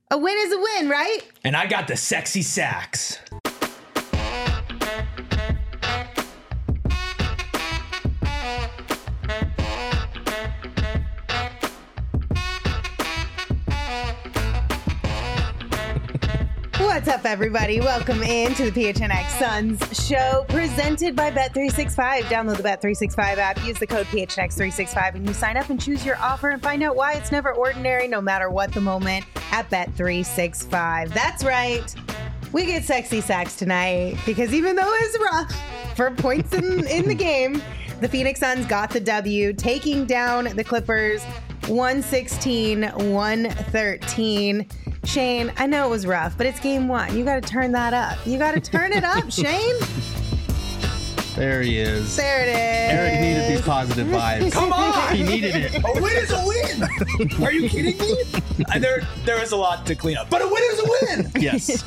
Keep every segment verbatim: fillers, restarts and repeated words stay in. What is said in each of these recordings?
A win is a win, right? And I got the sexy sacks. What's up, everybody? Welcome in to the P H N X Suns show presented by Bet three sixty-five. Download the Bet three sixty-five app, use the code P H N X three sixty-five, and you sign up and choose your offer and find out why it's never ordinary, no matter what the moment, at Bet three sixty-five. That's right. We get sexy sacks tonight because even though it's rough for points in, in the game, the Phoenix Suns got the W, taking down the Clippers one sixteen to one thirteen. Shane, I know it was rough, but it's game one. You got to turn that up. You got to turn it up, Shane. There he is. There it is. Eric needed these positive vibes. Come on! He needed it. A win is a win! Are you kidding me? There, there is a lot to clean up, but a win is a win! Yes.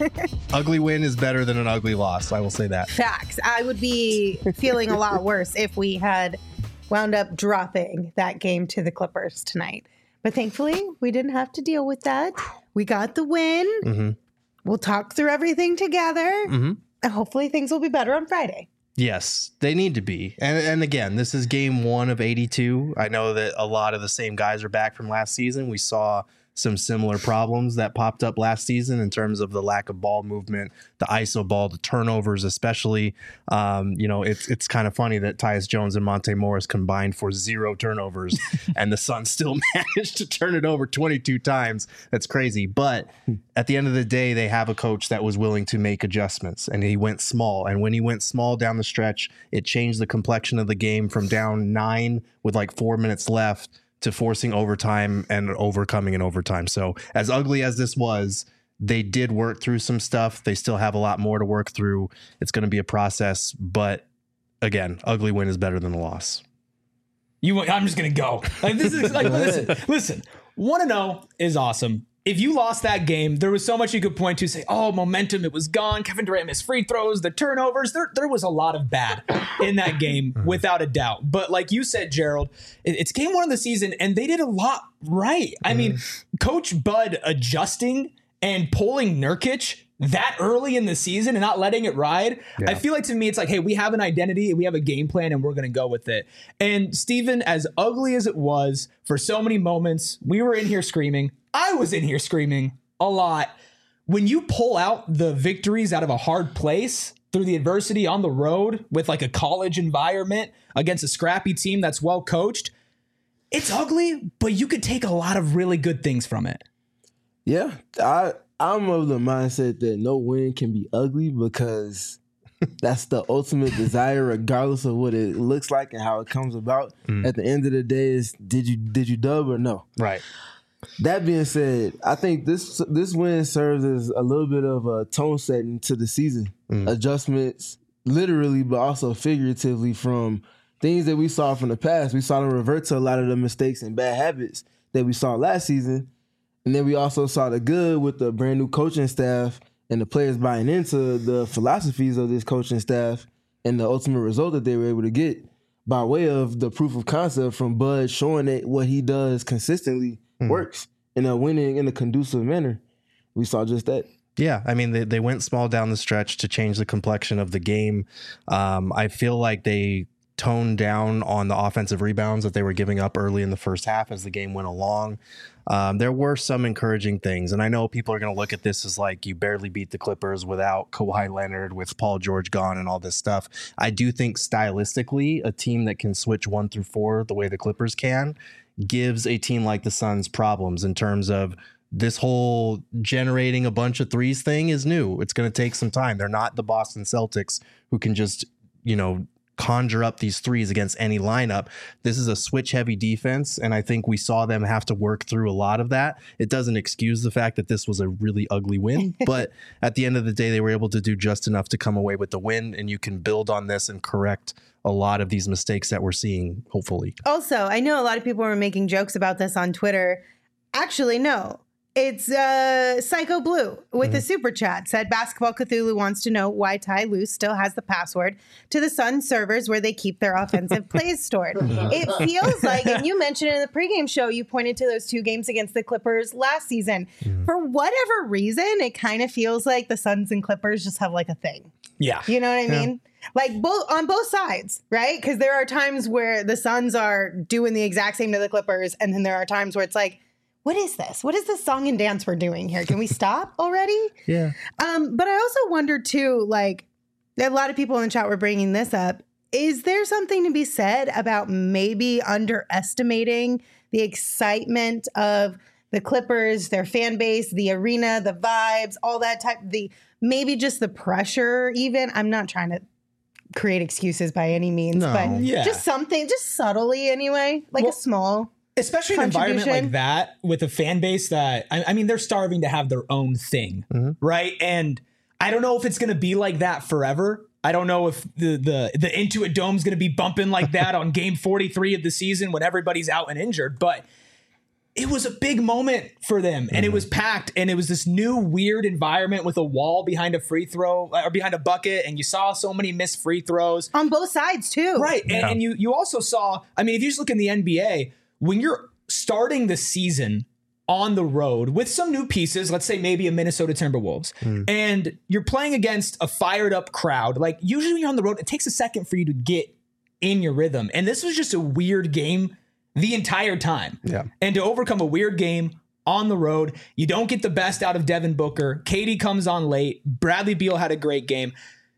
Ugly win is better than an ugly loss. I will say that. Facts. I would be feeling a lot worse if we had wound up dropping that game to the Clippers tonight. But thankfully, we didn't have to deal with that. We got the win. Mm-hmm. We'll talk through everything together. Mm-hmm. And hopefully things will be better on Friday. Yes, they need to be. And and again, this is game one of eighty-two. I know that a lot of the same guys are back from last season. We saw some similar problems that popped up last season in terms of the lack of ball movement, the I S O ball, the turnovers especially. Um, you know, it's it's kind of funny that Tyus Jones and Monte Morris combined for zero turnovers, and the Suns still managed to turn it over twenty-two times. That's crazy. But at the end of the day, they have a coach that was willing to make adjustments, and he went small. And when he went small down the stretch, it changed the complexion of the game from down nine with like four minutes left to forcing overtime and overcoming an overtime. So as ugly as this was, they did work through some stuff. They still have a lot more to work through. It's going to be a process, but again, ugly win is better than a loss. You, I'm just going to go. Like, this is like, listen, listen, one and oh is awesome. If you lost that game, there was so much you could point to, say, oh, momentum, it was gone. Kevin Durant missed free throws, the turnovers. There, there was a lot of bad in that game, without a doubt. But like you said, Gerald, it, it's game one of the season, and they did a lot right. I mean, Coach Bud adjusting and pulling Nurkic that early in the season and not letting it ride. Yeah. I feel like, to me, it's like, hey, we have an identity, we have a game plan, and we're going to go with it. And Steven, as ugly as it was for so many moments, we were in here screaming. I was in here screaming a lot. When you pull out the victories out of a hard place through the adversity on the road with like a college environment against a scrappy team that's well coached, it's ugly, but you could take a lot of really good things from it. Yeah, I, I'm of the mindset that no win can be ugly because that's the ultimate desire, regardless of what it looks like and how it comes about. Mm. At the end of the day, is did you did you dub or no? Right. That being said, I think this this win serves as a little bit of a tone setting to the season. Mm. Adjustments, literally, but also figuratively, from things that we saw from the past. We saw them revert to a lot of the mistakes and bad habits that we saw last season. And then we also saw the good with the brand new coaching staff and the players buying into the philosophies of this coaching staff and the ultimate result that they were able to get by way of the proof of concept from Bud showing that what he does consistently mm. works in a winning, in a conducive manner. We saw just that. Yeah, I mean, they, they went small down the stretch to change the complexion of the game. Um, I feel like they toned down on the offensive rebounds that they were giving up early in the first half as the game went along. Um, there were some encouraging things, and I know people are going to look at this as like you barely beat the Clippers without Kawhi Leonard, with Paul George gone and all this stuff. I do think stylistically, a team that can switch one through four the way the Clippers can gives a team like the Suns problems in terms of this whole generating a bunch of threes thing is new. It's going to take some time. They're not the Boston Celtics who can just, you know, conjure up these threes against any lineup. This is a switch heavy defense, and I think we saw them have to work through a lot of that. It doesn't excuse the fact that this was a really ugly win, but at the end of the day, they were able to do just enough to come away with the win, and you can build on this and correct a lot of these mistakes that we're seeing, hopefully. Also, I know a lot of people were making jokes about this on Twitter. Actually, no. It's uh, Psycho Blue with mm-hmm. a super chat said Basketball Cthulhu wants to know why Ty Lue still has the password to the Suns servers where they keep their offensive plays stored. It feels like, and you mentioned in the pregame show, you pointed to those two games against the Clippers last season. Mm-hmm. For whatever reason, it kind of feels like the Suns and Clippers just have like a thing. Yeah. You know what I yeah. mean? Like both on both sides, right? Because there are times where the Suns are doing the exact same to the Clippers. And then there are times where it's like, what is this? What is this song and dance we're doing here? Can we stop already? Yeah. Um, but I also wonder too, like a lot of people in the chat were bringing this up. Is there something to be said about maybe underestimating the excitement of the Clippers, their fan base, the arena, the vibes, all that type, the maybe just the pressure even? I'm not trying to create excuses by any means, no. but yeah. just something, just subtly anyway, like well, a small Especially an environment like that with a fan base that, I, I mean, they're starving to have their own thing, mm-hmm. right? And I don't know if it's going to be like that forever. I don't know if the the, the Intuit Dome's going to be bumping like that on game forty-three of the season when everybody's out and injured. But it was a big moment for them, and mm-hmm. it was packed, and it was this new weird environment with a wall behind a free throw or behind a bucket, and you saw so many missed free throws. On both sides, too. Right, yeah. and, and you you also saw, I mean, if you just look in the N B A, when you're starting the season on the road with some new pieces, let's say maybe a Minnesota Timberwolves, mm. and you're playing against a fired up crowd, like usually when you're on the road, it takes a second for you to get in your rhythm. And this was just a weird game the entire time. Yeah. And to overcome a weird game on the road, you don't get the best out of Devin Booker. K D comes on late. Bradley Beal had a great game.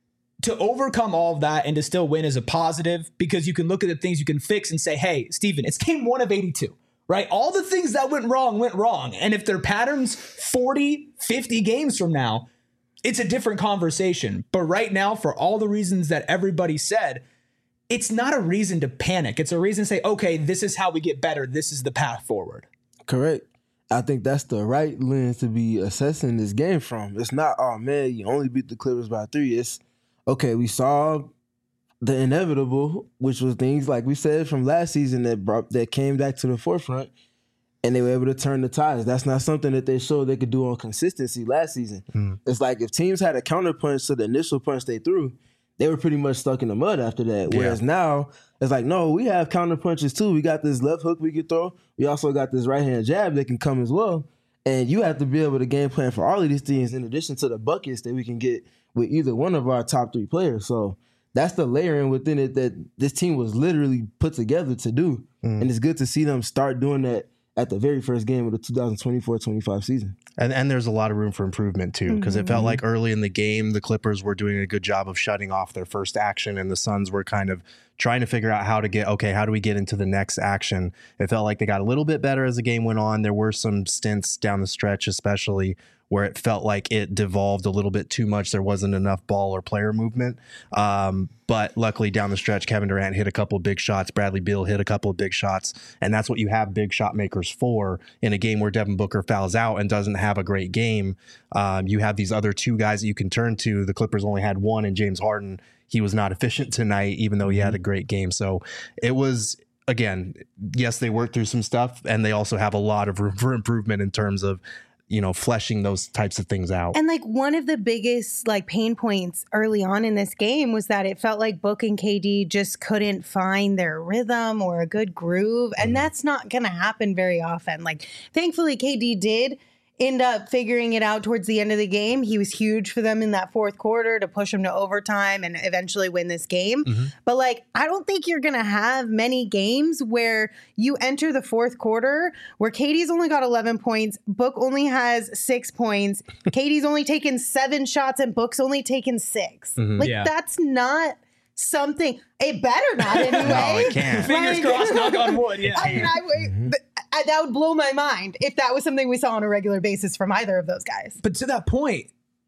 To overcome all of that and to still win is a positive because you can look at the things you can fix and say, hey, Steven, it's game one of eighty-two, right? All the things that went wrong went wrong. And if they're patterns forty, fifty games from now, it's a different conversation. But right now, for all the reasons that everybody said, it's not a reason to panic. It's a reason to say, okay, this is how we get better. This is the path forward. Correct. I think that's the right lens to be assessing this game from. It's not, oh, man, you only beat the Clippers by three. It's, okay, we saw the inevitable, which was things like we said from last season that brought that came back to the forefront, and they were able to turn the tides. That's not something that they showed they could do on consistency last season. Mm. It's like if teams had a counterpunch to the initial punch they threw, they were pretty much stuck in the mud after that. Yeah. Whereas now, it's like, no, we have counterpunches too. We got this left hook we could throw. We also got this right-hand jab that can come as well. And you have to be able to game plan for all of these things in addition to the buckets that we can get with either one of our top three players. So that's the layering within it that this team was literally put together to do. Mm. And it's good to see them start doing that at the very first game of the two thousand twenty-four twenty-five season. And and there's a lot of room for improvement, too, because mm-hmm. it felt like early in the game, the Clippers were doing a good job of shutting off their first action, and the Suns were kind of trying to figure out how to get, okay, how do we get into the next action? It felt like they got a little bit better as the game went on. There were some stints down the stretch, especially where it felt like it devolved a little bit too much. There wasn't enough ball or player movement. Um, but luckily down the stretch, Kevin Durant hit a couple of big shots. Bradley Beal hit a couple of big shots. And that's what you have big shot makers for in a game where Devin Booker fouls out and doesn't have a great game. Um, you have these other two guys that you can turn to. The Clippers only had one in James Harden. He was not efficient tonight, even though he had a great game. So it was, again, yes, they worked through some stuff, and they also have a lot of room for improvement in terms of, you know, fleshing those types of things out. And like one of the biggest like pain points early on in this game was that it felt like Book and K D just couldn't find their rhythm or a good groove. And mm-hmm. that's not going to happen very often. Like, thankfully, K D did end up figuring it out towards the end of the game. He was huge for them in that fourth quarter to push them to overtime and eventually win this game. Mm-hmm. But like, I don't think you're going to have many games where you enter the fourth quarter where K D's only got eleven points, Book only has six points, K D's only taken seven shots, and Book's only taken six. Mm-hmm. Like, yeah. that's not something. It better not anyway. No, it can't. Fingers crossed, knock on wood. Yeah. I mean, I, mm-hmm. I, that would blow my mind if that was something we saw on a regular basis from either of those guys. But to that point,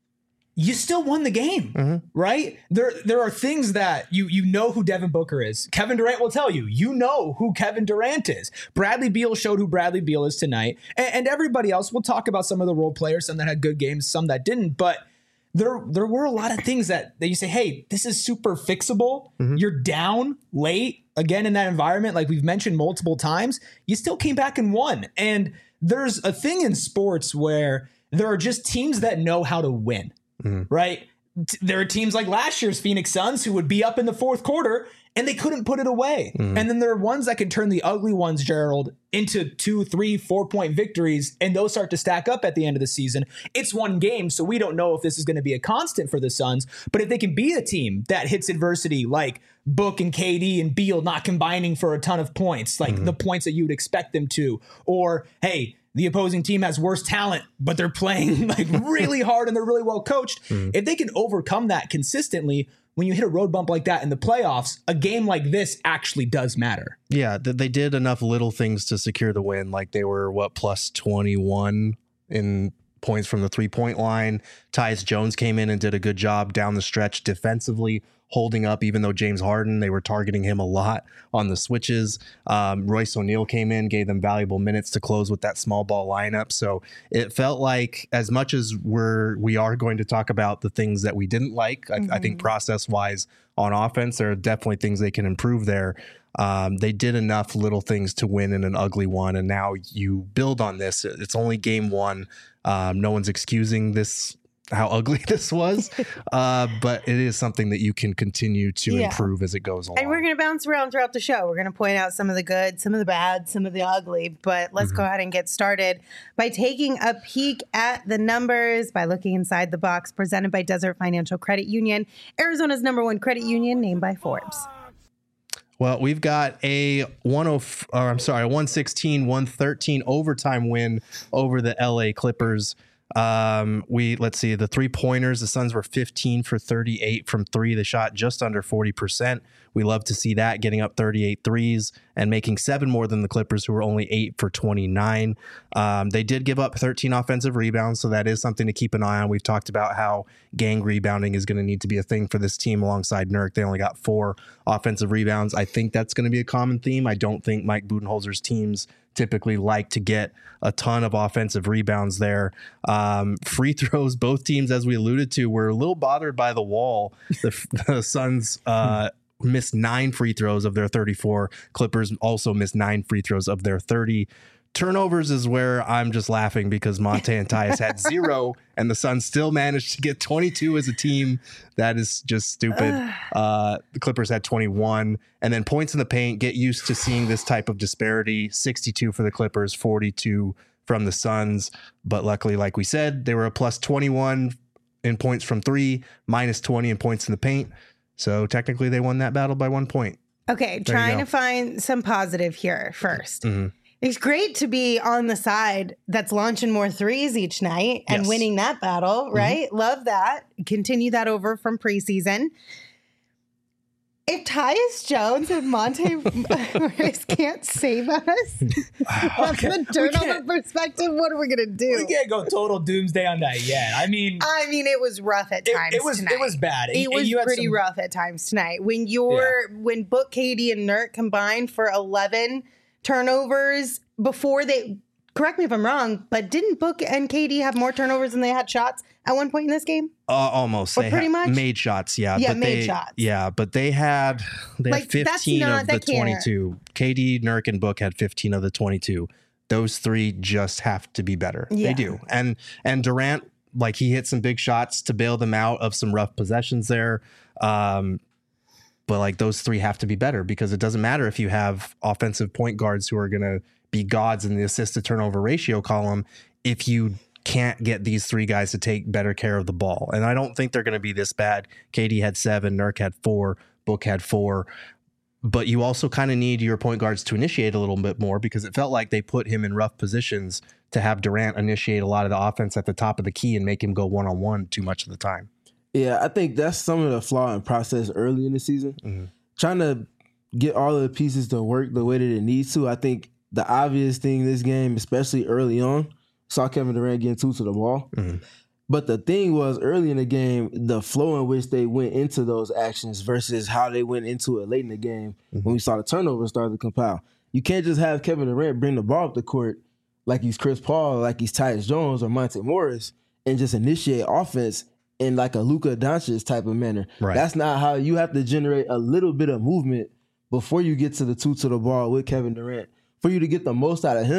you still won the game, mm-hmm. right? There there are things that you you know who Devin Booker is. Kevin Durant will tell you. You know who Kevin Durant is. Bradley Beal showed who Bradley Beal is tonight. And, and everybody else, we'll talk about some of the role players, some that had good games, some that didn't. But there there were a lot of things that, that you say, hey, this is super fixable. Mm-hmm. You're down late. Again, in that environment, like we've mentioned multiple times, you still came back and won. And there's a thing in sports where there are just teams that know how to win, mm-hmm. right? T- there are teams like last year's Phoenix Suns who would be up in the fourth quarter and they couldn't put it away. Mm-hmm. And then there are ones that can turn the ugly ones, Gerald, into two, three, four point victories. And those start to stack up at the end of the season. It's one game, so we don't know if this is going to be a constant for the Suns. But if they can be a team that hits adversity like Book and K D and Beal not combining for a ton of points, like mm-hmm. the points that you would expect them to, or, hey, the opposing team has worse talent, but they're playing like really hard and they're really well coached. Mm-hmm. If they can overcome that consistently, when you hit a road bump like that in the playoffs, a game like this actually does matter. Yeah, they did enough little things to secure the win. Like they were, what, plus twenty-one in points from the three-point line. Tyus Jones came in and did a good job down the stretch defensively, holding up, even though James Harden, they were targeting him a lot on the switches. Um, Royce O'Neal came in, gave them valuable minutes to close with that small ball lineup. So it felt like, as much as we're, we are going to talk about the things that we didn't like, mm-hmm. I, I think process-wise on offense, there are definitely things they can improve there. Um, they did enough little things to win in an ugly one, and now you build on this. It's only game one. Um, no one's excusing this, how ugly this was, uh, but it is something that you can continue to yeah. improve as it goes along. And we're going to bounce around throughout the show. We're going to point out some of the good, some of the bad, some of the ugly, but let's mm-hmm. go ahead and get started by taking a peek at the numbers, by looking inside the box, presented by Desert Financial Credit Union, Arizona's number one credit union, named by Forbes. Well, we've got a one oh, or I'm sorry, one sixteen, one thirteen overtime win over the L A Clippers. Um, we let's see the three pointers. The Suns were fifteen for thirty-eight from three. They shot just under forty percent. We love to see that, getting up thirty-eight threes and making seven more than the Clippers, who were only eight for twenty-nine. Um, they did give up thirteen offensive rebounds, so that is something to keep an eye on. We've talked about how gang rebounding is going to need to be a thing for this team alongside Nurk. They only got four offensive rebounds. I think that's going to be a common theme. I don't think Mike Budenholzer's teams typically like to get a ton of offensive rebounds there. Um, free throws, both teams, as we alluded to, were a little bothered by the wall. The, the Suns uh, missed nine free throws of their thirty-four. Clippers also missed nine free throws of their thirty. Turnovers is where I'm just laughing, because Monte and Tyus had zero and the Suns still managed to get twenty-two as a team. That is just stupid. Uh, the Clippers had twenty-one. And then points in the paint, get used to seeing this type of disparity. sixty-two for the Clippers, forty-two from the Suns. But luckily, like we said, they were a plus twenty-one in points from three, minus twenty in points in the paint. So technically they won that battle by one point. Okay, there trying to find some positive here first. Mm-hmm. It's great to be on the side that's launching more threes each night and yes. winning that battle, right? Mm-hmm. Love that. Continue that over from preseason. If Tyus Jones and Monte Morris can't save us from okay. the turnover perspective, what are we going to do? We can't go total doomsday on that yet. I mean... I mean, it was rough at times it, it was, tonight. It was bad. It, it was pretty some... rough at times tonight. When you're, yeah. when Book, K D, and Nurk combined for eleven turnovers before they... Correct me if I'm wrong, but didn't Book and K D have more turnovers than they had shots at one point in this game? Uh, almost. Or they pretty much made shots. Yeah. Yeah, but made they, shots. Yeah, but they had they like, had fifteen not, of the twenty-two. K D, Nurk, and Book had fifteen of the twenty-two. Those three just have to be better. Yeah. They do. And and Durant, like, he hit some big shots to bail them out of some rough possessions there. Um, but like, those three have to be better, because it doesn't matter if you have offensive point guards who are going to be gods in the assist to turnover ratio column if you can't get these three guys to take better care of the ball. And I don't think they're going to be this bad. K D had seven, Nurk had four, Book had four. But you also kind of need your point guards to initiate a little bit more, because it felt like they put him in rough positions to have Durant initiate a lot of the offense at the top of the key and make him go one-on-one too much of the time. Yeah, I think that's some of the flaw in process early in the season. Mm-hmm. Trying to get all of the pieces to work the way that it needs to. I think the obvious thing in this game, especially early on, saw Kevin Durant getting two to the ball. Mm-hmm. But the thing was, early in the game, the flow in which they went into those actions versus how they went into it late in the game mm-hmm. when we saw the turnovers start to compile. You can't just have Kevin Durant bring the ball up the court like he's Chris Paul, like he's Tyus Jones or Monte Morris, and just initiate offense in like a Luka Doncic type of manner. Right. That's not how you have to generate a little bit of movement before you get to the two to the ball with Kevin Durant for you to get the most out of him,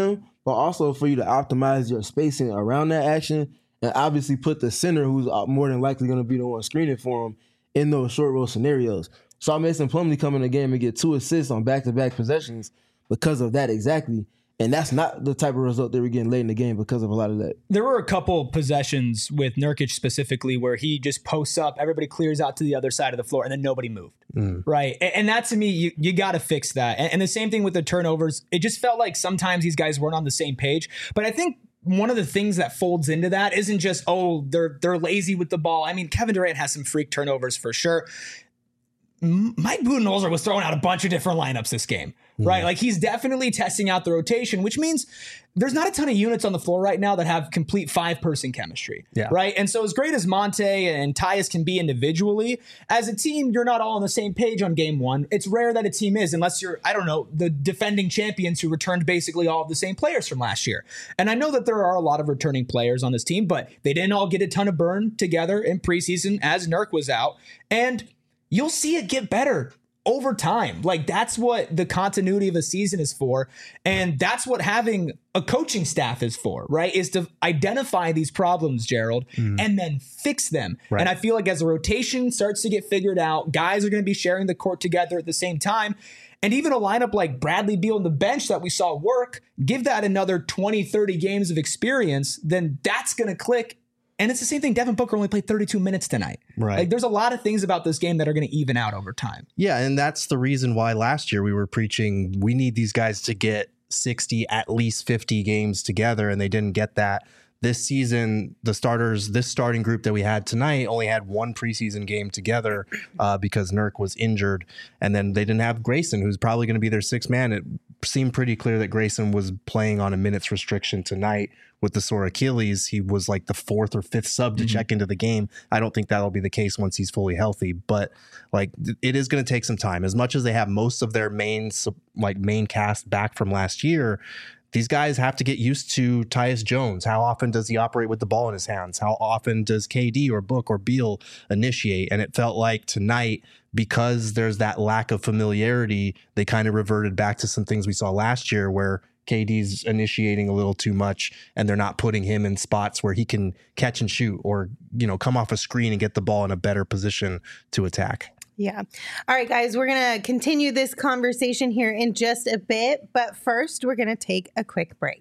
but also for you to optimize your spacing around that action and obviously put the center, who's more than likely going to be the one screening for him, in those short roll scenarios. Saw Mason Plumlee come in the game and get two assists on back-to-back possessions because of that exactly. And that's not the type of result they were getting late in the game because of a lot of that. There were a couple possessions with Nurkic specifically where he just posts up, everybody clears out to the other side of the floor, and then nobody moved. Mm. Right. And, and that, to me, you, you got to fix that. And, and the same thing with the turnovers. It just felt like sometimes these guys weren't on the same page. But I think one of the things that folds into that isn't just, oh, they're they're lazy with the ball. I mean, Kevin Durant has some freak turnovers for sure. Mike Budenholzer was throwing out a bunch of different lineups this game, right? Mm. Like he's definitely testing out the rotation, which means there's not a ton of units on the floor right now that have complete five person chemistry, yeah. right? And so as great as Monte and Tyus can be individually, as a team, you're not all on the same page on game one. It's rare that a team is, unless you're, I don't know, the defending champions who returned basically all of the same players from last year. And I know that there are a lot of returning players on this team, but they didn't all get a ton of burn together in preseason as Nurk was out. And you'll see it get better over time. Like that's what the continuity of a season is for. And that's what having a coaching staff is for, right? Is to identify these problems, Gerald, mm. and then fix them. Right. And I feel like as the rotation starts to get figured out, guys are going to be sharing the court together at the same time. And even a lineup like Bradley Beal on the bench that we saw work, give that another twenty, thirty games of experience, then that's going to click. And it's the same thing. Devin Booker only played thirty-two minutes tonight. Right. Like there's a lot of things about this game that are going to even out over time. Yeah. And that's the reason why last year we were preaching, we need these guys to get sixty, at least fifty games together. And they didn't get that. This season, the starters, this starting group that we had tonight only had one preseason game together uh, because Nurk was injured. And then they didn't have Grayson, who's probably going to be their sixth man. It seemed pretty clear that Grayson was playing on a minutes restriction tonight with the sore Achilles. He was like the fourth or fifth sub to mm-hmm. check into the game. I don't think that'll be the case once he's fully healthy, but like it is going to take some time. As much as they have most of their main like main cast back from last year, these guys have to get used to Tyus Jones. How often does he operate with the ball in his hands? How often does K D or Book or Beal initiate? And it felt like tonight, because there's that lack of familiarity, they kind of reverted back to some things we saw last year where K D's initiating a little too much and they're not putting him in spots where he can catch and shoot or, you know, come off a screen and get the ball in a better position to attack. Yeah. All right, guys, we're going to continue this conversation here in just a bit. But first, we're going to take a quick break.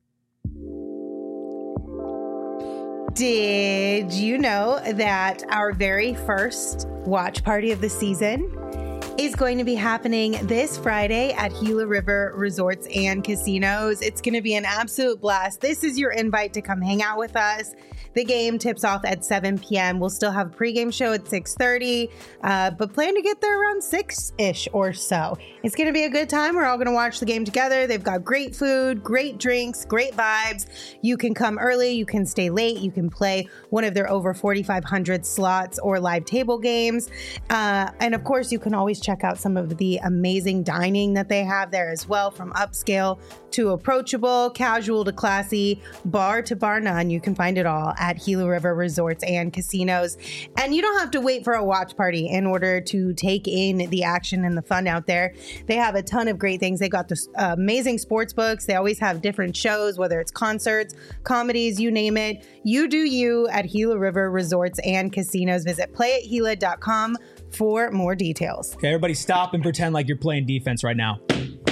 Did you know that our very first watch party of the season is going to be happening this Friday at Gila River Resorts and Casinos? It's going to be an absolute blast. This is your invite to come hang out with us. The game tips off at seven p.m. We'll still have a pregame show at six thirty, uh, but plan to get there around six-ish or so. It's going to be a good time. We're all going to watch the game together. They've got great food, great drinks, great vibes. You can come early. You can stay late. You can play one of their over forty-five hundred slots or live table games. Uh, and, of course, you can always check out some of the amazing dining that they have there as well, from upscale to approachable, casual to classy, bar to bar none. You can find it all at Gila River Resorts and Casinos. And you don't have to wait for a watch party in order to take in the action and the fun out there. They have a ton of great things. They got this uh, amazing sports books. They always have different shows, whether it's concerts, comedies, you name it. You do you at Gila River Resorts and Casinos. Visit play at gila dot com for more details. Okay, everybody stop and pretend like you're playing defense right now.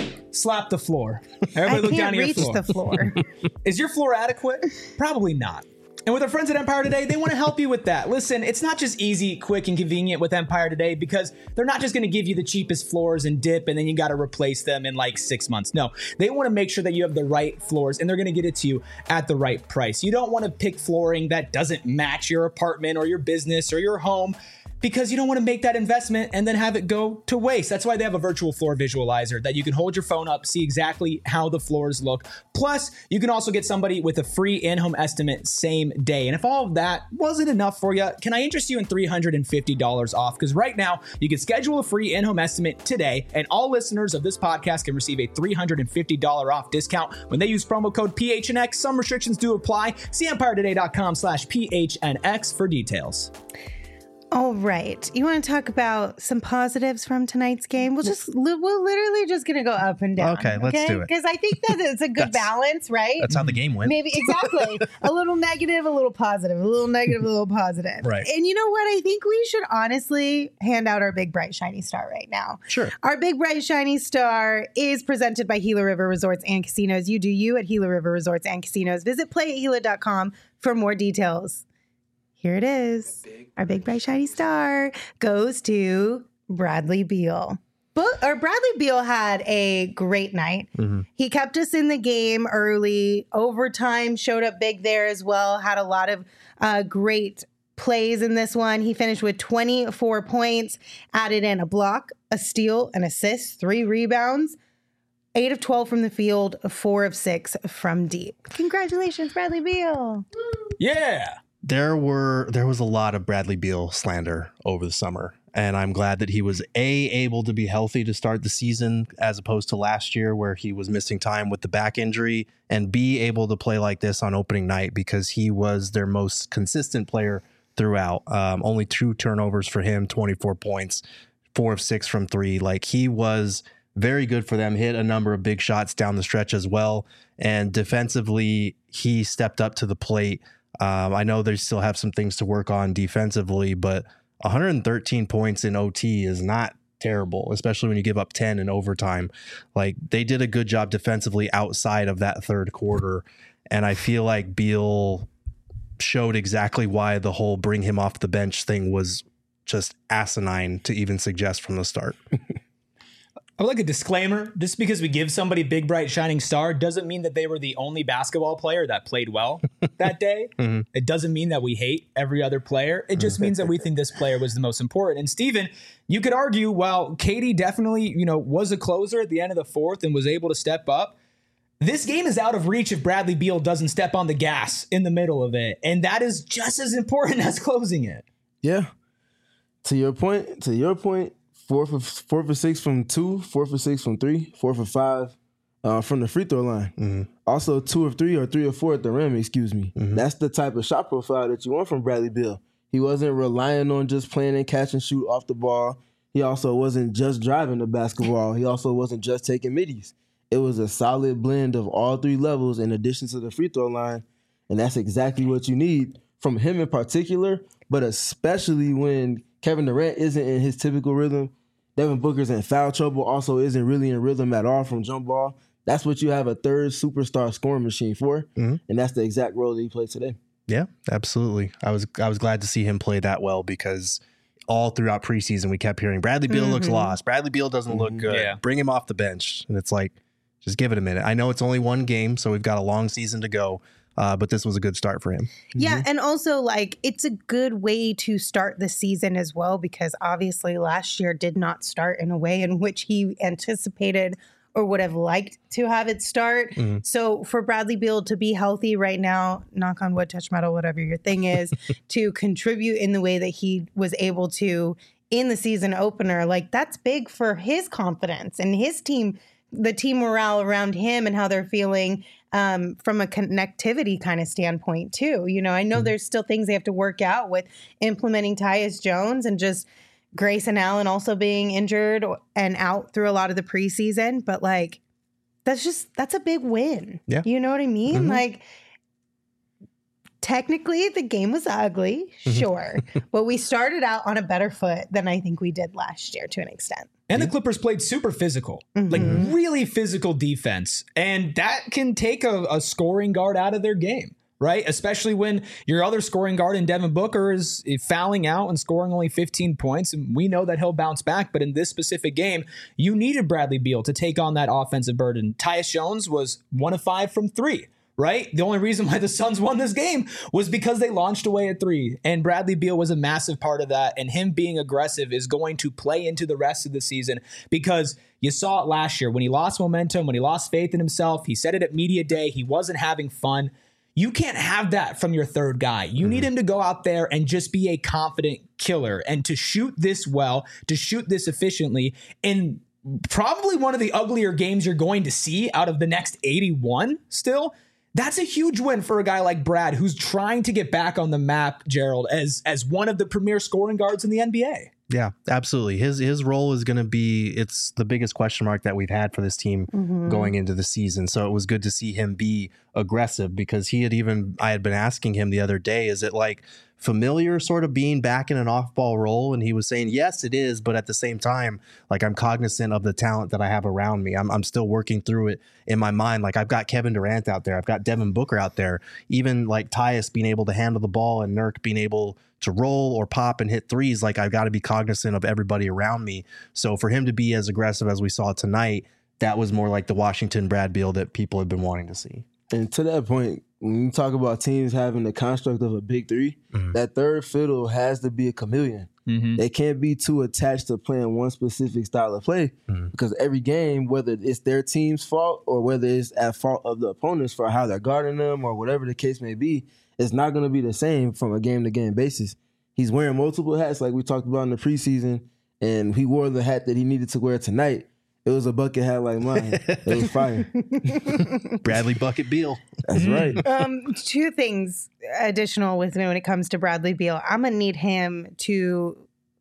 Slap the floor. Everybody I look down at your reach floor. the floor. Is your floor adequate? Probably not. And with our friends at Empire Today, they want to help you with that. Listen, it's not just easy, quick, and convenient with Empire Today, because they're not just going to give you the cheapest floors and dip, and then you got to replace them in like six months. No, they want to make sure that you have the right floors, and they're going to get it to you at the right price. You don't want to pick flooring that doesn't match your apartment or your business or your home, because you don't want to make that investment and then have it go to waste. That's why they have a virtual floor visualizer that you can hold your phone up, see exactly how the floors look. Plus, you can also get somebody with a free in-home estimate same day. And if all of that wasn't enough for you, can I interest you in three hundred fifty dollars off? Because right now, you can schedule a free in-home estimate today, and all listeners of this podcast can receive a three hundred fifty dollars off discount when they use promo code P H N X. Some restrictions do apply. See empire today dot com slash P H N X for details. All right. You want to talk about some positives from tonight's game? We'll just, we're literally just going to go up and down. Okay, let's do it. Because I think that it's a good balance, right? That's how the game went. Maybe, exactly. A little negative, a little positive, a little negative, a little positive. Right. And you know what? I think we should honestly hand out our big, bright, shiny star right now. Sure. Our big, bright, shiny star is presented by Gila River Resorts and Casinos. You do you at Gila River Resorts and Casinos. Visit play at gila dot com for more details. Here it is. Our big, bright, shiny star goes to Bradley Beal. But, or Bradley Beal had a great night. Mm-hmm. He kept us in the game early. Overtime showed up big there as well. Had a lot of uh, great plays in this one. He finished with twenty-four points, added in a block, a steal, an assist, three rebounds, eight of twelve from the field, four of six from deep. Congratulations, Bradley Beal. Yeah. There were there was a lot of Bradley Beal slander over the summer, and I'm glad that he was A, able to be healthy to start the season as opposed to last year where he was missing time with the back injury, and B, able to play like this on opening night because he was their most consistent player throughout. Um, only two turnovers for him, twenty-four points, four of six from three. Like, he was very good for them, hit a number of big shots down the stretch as well, and defensively, he stepped up to the plate. Um, I know they still have some things to work on defensively, but one hundred thirteen points in O T is not terrible, especially when you give up ten in overtime. Like, they did a good job defensively outside of that third quarter. And I feel like Beal showed exactly why the whole bring him off the bench thing was just asinine to even suggest from the start. I would like a disclaimer. Just because we give somebody big, bright, shining star doesn't mean that they were the only basketball player that played well that day. Mm-hmm. It doesn't mean that we hate every other player. It just means that we think this player was the most important. And Steven, you could argue, while Katie definitely, you know, was a closer at the end of the fourth and was able to step up, this game is out of reach if Bradley Beal doesn't step on the gas in the middle of it. And that is just as important as closing it. Yeah. To your point, to your point, Four for four for six from two, four for six from three, four for five uh, from the free throw line. Mm-hmm. Also, two of three or three or four at the rim. Excuse me. Mm-hmm. That's the type of shot profile that you want from Bradley Beal. He wasn't relying on just playing and catch and shoot off the ball. He also wasn't just driving the basketball. He also wasn't just taking middies. It was a solid blend of all three levels in addition to the free throw line, and that's exactly what you need from him in particular. But especially when Kevin Durant isn't in his typical rhythm. Devin Booker's in foul trouble, also isn't really in rhythm at all from jump ball. That's what you have a third superstar scoring machine for, mm-hmm. and that's the exact role that he played today. Yeah, absolutely. I was I was glad to see him play that well because all throughout preseason we kept hearing Bradley Beal mm-hmm. looks lost. Bradley Beal doesn't mm-hmm. look good. Yeah. Bring him off the bench. And it's like, just give it a minute. I know it's only one game, so we've got a long season to go. Uh, but this was a good start for him. Yeah, mm-hmm. and also, like, it's a good way to start the season as well, because obviously last year did not start in a way in which he anticipated or would have liked to have it start. Mm-hmm. So for Bradley Beal to be healthy right now, knock on wood, touch metal, whatever your thing is, to contribute in the way that he was able to in the season opener, like, that's big for his confidence and his team, the team morale around him and how they're feeling um, from a connectivity kind of standpoint too. You know, I know mm-hmm. there's still things they have to work out with implementing Tyus Jones and just Grayson Allen also being injured and out through a lot of the preseason. But like, that's just, that's a big win. Yeah. You know what I mean? Mm-hmm. Like, technically the game was ugly, sure, but we started out on a better foot than I think we did last year to an extent. And the Clippers played super physical, mm-hmm. like really physical defense. And that can take a, a scoring guard out of their game, right? Especially when your other scoring guard in Devin Booker is fouling out and scoring only fifteen points. And we know that he'll bounce back. But in this specific game, you needed Bradley Beal to take on that offensive burden. Tyus Jones was one of five from three. Right? The only reason why the Suns won this game was because they launched away at three. And Bradley Beal was a massive part of that. And him being aggressive is going to play into the rest of the season, because you saw it last year when he lost momentum, when he lost faith in himself. He said it at media day. He wasn't having fun. You can't have that from your third guy. You mm-hmm. need him to go out there and just be a confident killer and to shoot this well, to shoot this efficiently. And probably one of the uglier games you're going to see out of the next eighty-one still. That's a huge win for a guy like Brad, who's trying to get back on the map, Gerald, as as one of the premier scoring guards in the N B A. Yeah, absolutely. His his role is going to be, it's the biggest question mark that we've had for this team mm-hmm. going into the season. So it was good to see him be aggressive, because he had even, I had been asking him the other day, is it like familiar sort of being back in an off-ball role? And he was saying, yes, it is. But at the same time, like, I'm cognizant of the talent that I have around me. I'm, I'm still working through it in my mind. Like, I've got Kevin Durant out there. I've got Devin Booker out there. Even like Tyus being able to handle the ball and Nurk being able to roll or pop and hit threes. Like, I've got to be cognizant of everybody around me. So for him to be as aggressive as we saw tonight, that was more like the Washington Brad Beal that people have been wanting to see. And to that point, when you talk about teams having the construct of a big three, mm-hmm. that third fiddle has to be a chameleon. Mm-hmm. They can't be too attached to playing one specific style of play, mm-hmm. because every game, whether it's their team's fault or whether it's at fault of the opponents for how they're guarding them or whatever the case may be, it's not going to be the same from a game-to-game basis. He's wearing multiple hats like we talked about in the preseason, and he wore the hat that he needed to wear tonight. It was a bucket hat like mine. It was fire. Bradley Bucket Beal. That's right. Um, two things additional with me when it comes to Bradley Beal. I'm going to need him to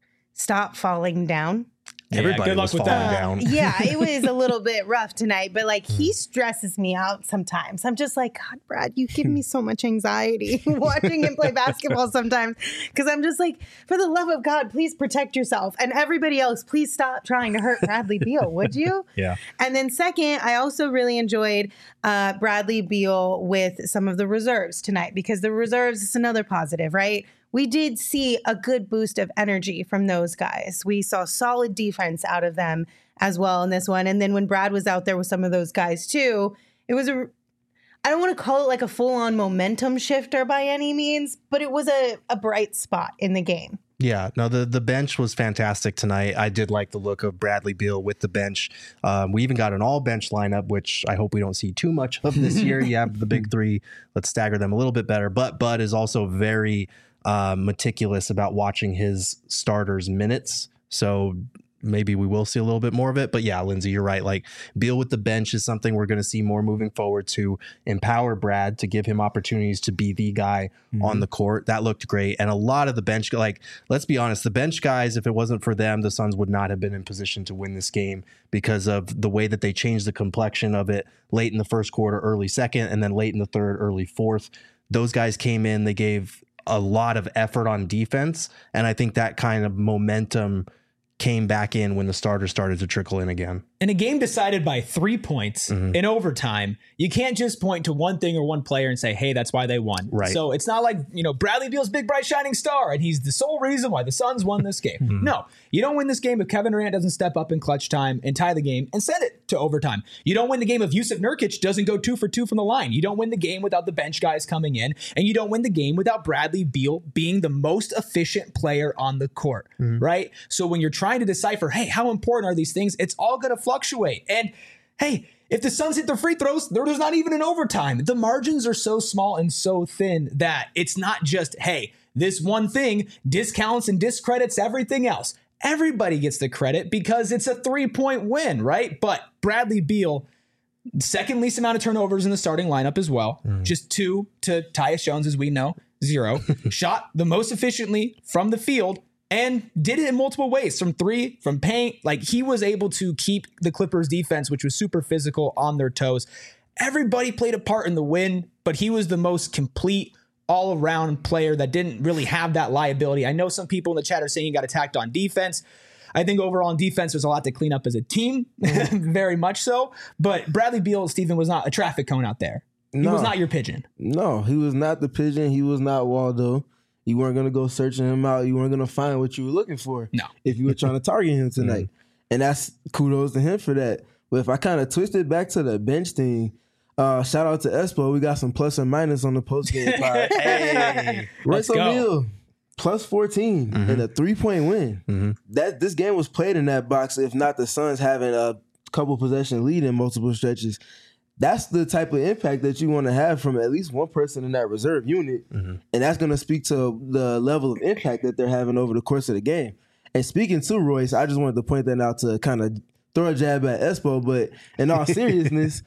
stop falling down. Everybody yeah, good luck was with falling that. down. Uh, yeah, it was a little bit rough tonight, but like he stresses me out sometimes. I'm just like, God, Brad, you give me so much anxiety watching him play basketball sometimes, because I'm just like, for the love of God, please protect yourself. And everybody else, please stop trying to hurt Bradley Beal, would you? Yeah. And then second, I also really enjoyed uh, Bradley Beal with some of the reserves tonight, because the reserves is another positive, right? We did see a good boost of energy from those guys. We saw solid defense out of them as well in this one. And then when Brad was out there with some of those guys too, it was a, I don't want to call it like a full-on momentum shifter by any means, but it was a, a bright spot in the game. Yeah, no, the, the bench was fantastic tonight. I did like the look of Bradley Beal with the bench. Um, we even got an all-bench lineup, which I hope we don't see too much of this year. You have the big three. Let's stagger them a little bit better. But Bud is also very uh, meticulous about watching his starters' minutes. So maybe we will see a little bit more of it. But yeah, Lindsay, you're right. Like, Beal with the bench is something we're going to see more moving forward, to empower Brad, to give him opportunities to be the guy mm-hmm. on the court. That looked great. And a lot of the bench, like, let's be honest, the bench guys, if it wasn't for them, the Suns would not have been in position to win this game, because of the way that they changed the complexion of it late in the first quarter, early second, and then late in the third, early fourth. Those guys came in, they gave a lot of effort on defense. And I think that kind of momentum came back in when the starters started to trickle in again. In a game decided by three points mm-hmm. in overtime, you can't just point to one thing or one player and say, hey, that's why they won. Right. So it's not like, you know, Bradley Beal's big, bright, shining star, and he's the sole reason why the Suns won this game. Mm-hmm. No, you don't win this game if Kevin Durant doesn't step up in clutch time and tie the game and send it to overtime. You don't win the game if Jusuf Nurkic doesn't go two for two from the line. You don't win the game without the bench guys coming in, and you don't win the game without Bradley Beal being the most efficient player on the court, mm-hmm. right? So when you're trying to decipher, hey, how important are these things? It's all going to fluctuate. And hey, if the Suns hit their free throws, there's not even an overtime. The margins are so small and so thin that it's not just, hey, this one thing discounts and discredits everything else. Everybody gets the credit because it's a three-point win, right? But Bradley Beal, second least amount of turnovers in the starting lineup as well. Mm. Just two to Tyus Jones, as we know, zero. Shot the most efficiently from the field, and did it in multiple ways, from three, from paint. Like, he was able to keep the Clippers defense, which was super physical, on their toes. Everybody played a part in the win, but he was the most complete all-around player that didn't really have that liability. I know some people in the chat are saying he got attacked on defense. I think overall on defense, there's a lot to clean up as a team, very much so. But Bradley Beal, Stephen, was not a traffic cone out there. He no. was not your pigeon. No, he was not the pigeon. He was not Waldo. You weren't going to go searching him out. You weren't going to find what you were looking for. No. If you were trying to target him tonight. Mm-hmm. And that's kudos to him for that. But if I kind of twist it back to the bench thing, uh, shout out to Espo. We got some plus and minus on the post-game pod. Hey, Royce O'Neal, plus fourteen mm-hmm. in a three-point win. Mm-hmm. That This game was played in that box, if not the Suns having a couple possession lead in multiple stretches. That's the type of impact that you want to have from at least one person in that reserve unit. Mm-hmm. And that's going to speak to the level of impact that they're having over the course of the game. And speaking to Royce, I just wanted to point that out to kind of throw a jab at Espo. But in all seriousness,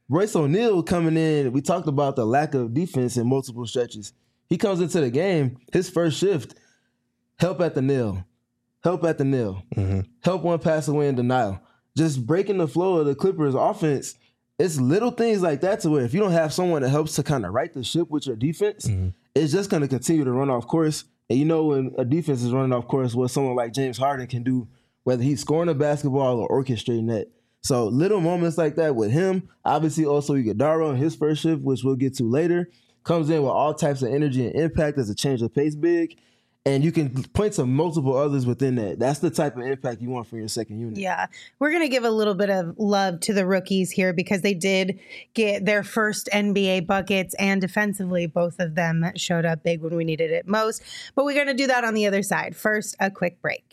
Royce O'Neal coming in, we talked about the lack of defense in multiple stretches. He comes into the game, his first shift, help at the nail, help at the nail, mm-hmm. help one pass away in denial. Just breaking the flow of the Clippers offense. It's little things like that to where if you don't have someone that helps to kind of right the ship with your defense, mm-hmm. it's just going to continue to run off course. And you know when a defense is running off course, what someone like James Harden can do, whether he's scoring a basketball or orchestrating that. So little moments like that with him, obviously also Iguodala in his first shift, which we'll get to later, comes in with all types of energy and impact as a change of pace big. And you can point to multiple others within that. That's the type of impact you want from your second unit. Yeah. We're going to give a little bit of love to the rookies here because they did get their first N B A buckets, and defensively, both of them showed up big when we needed it most. But we're going to do that on the other side. First, a quick break.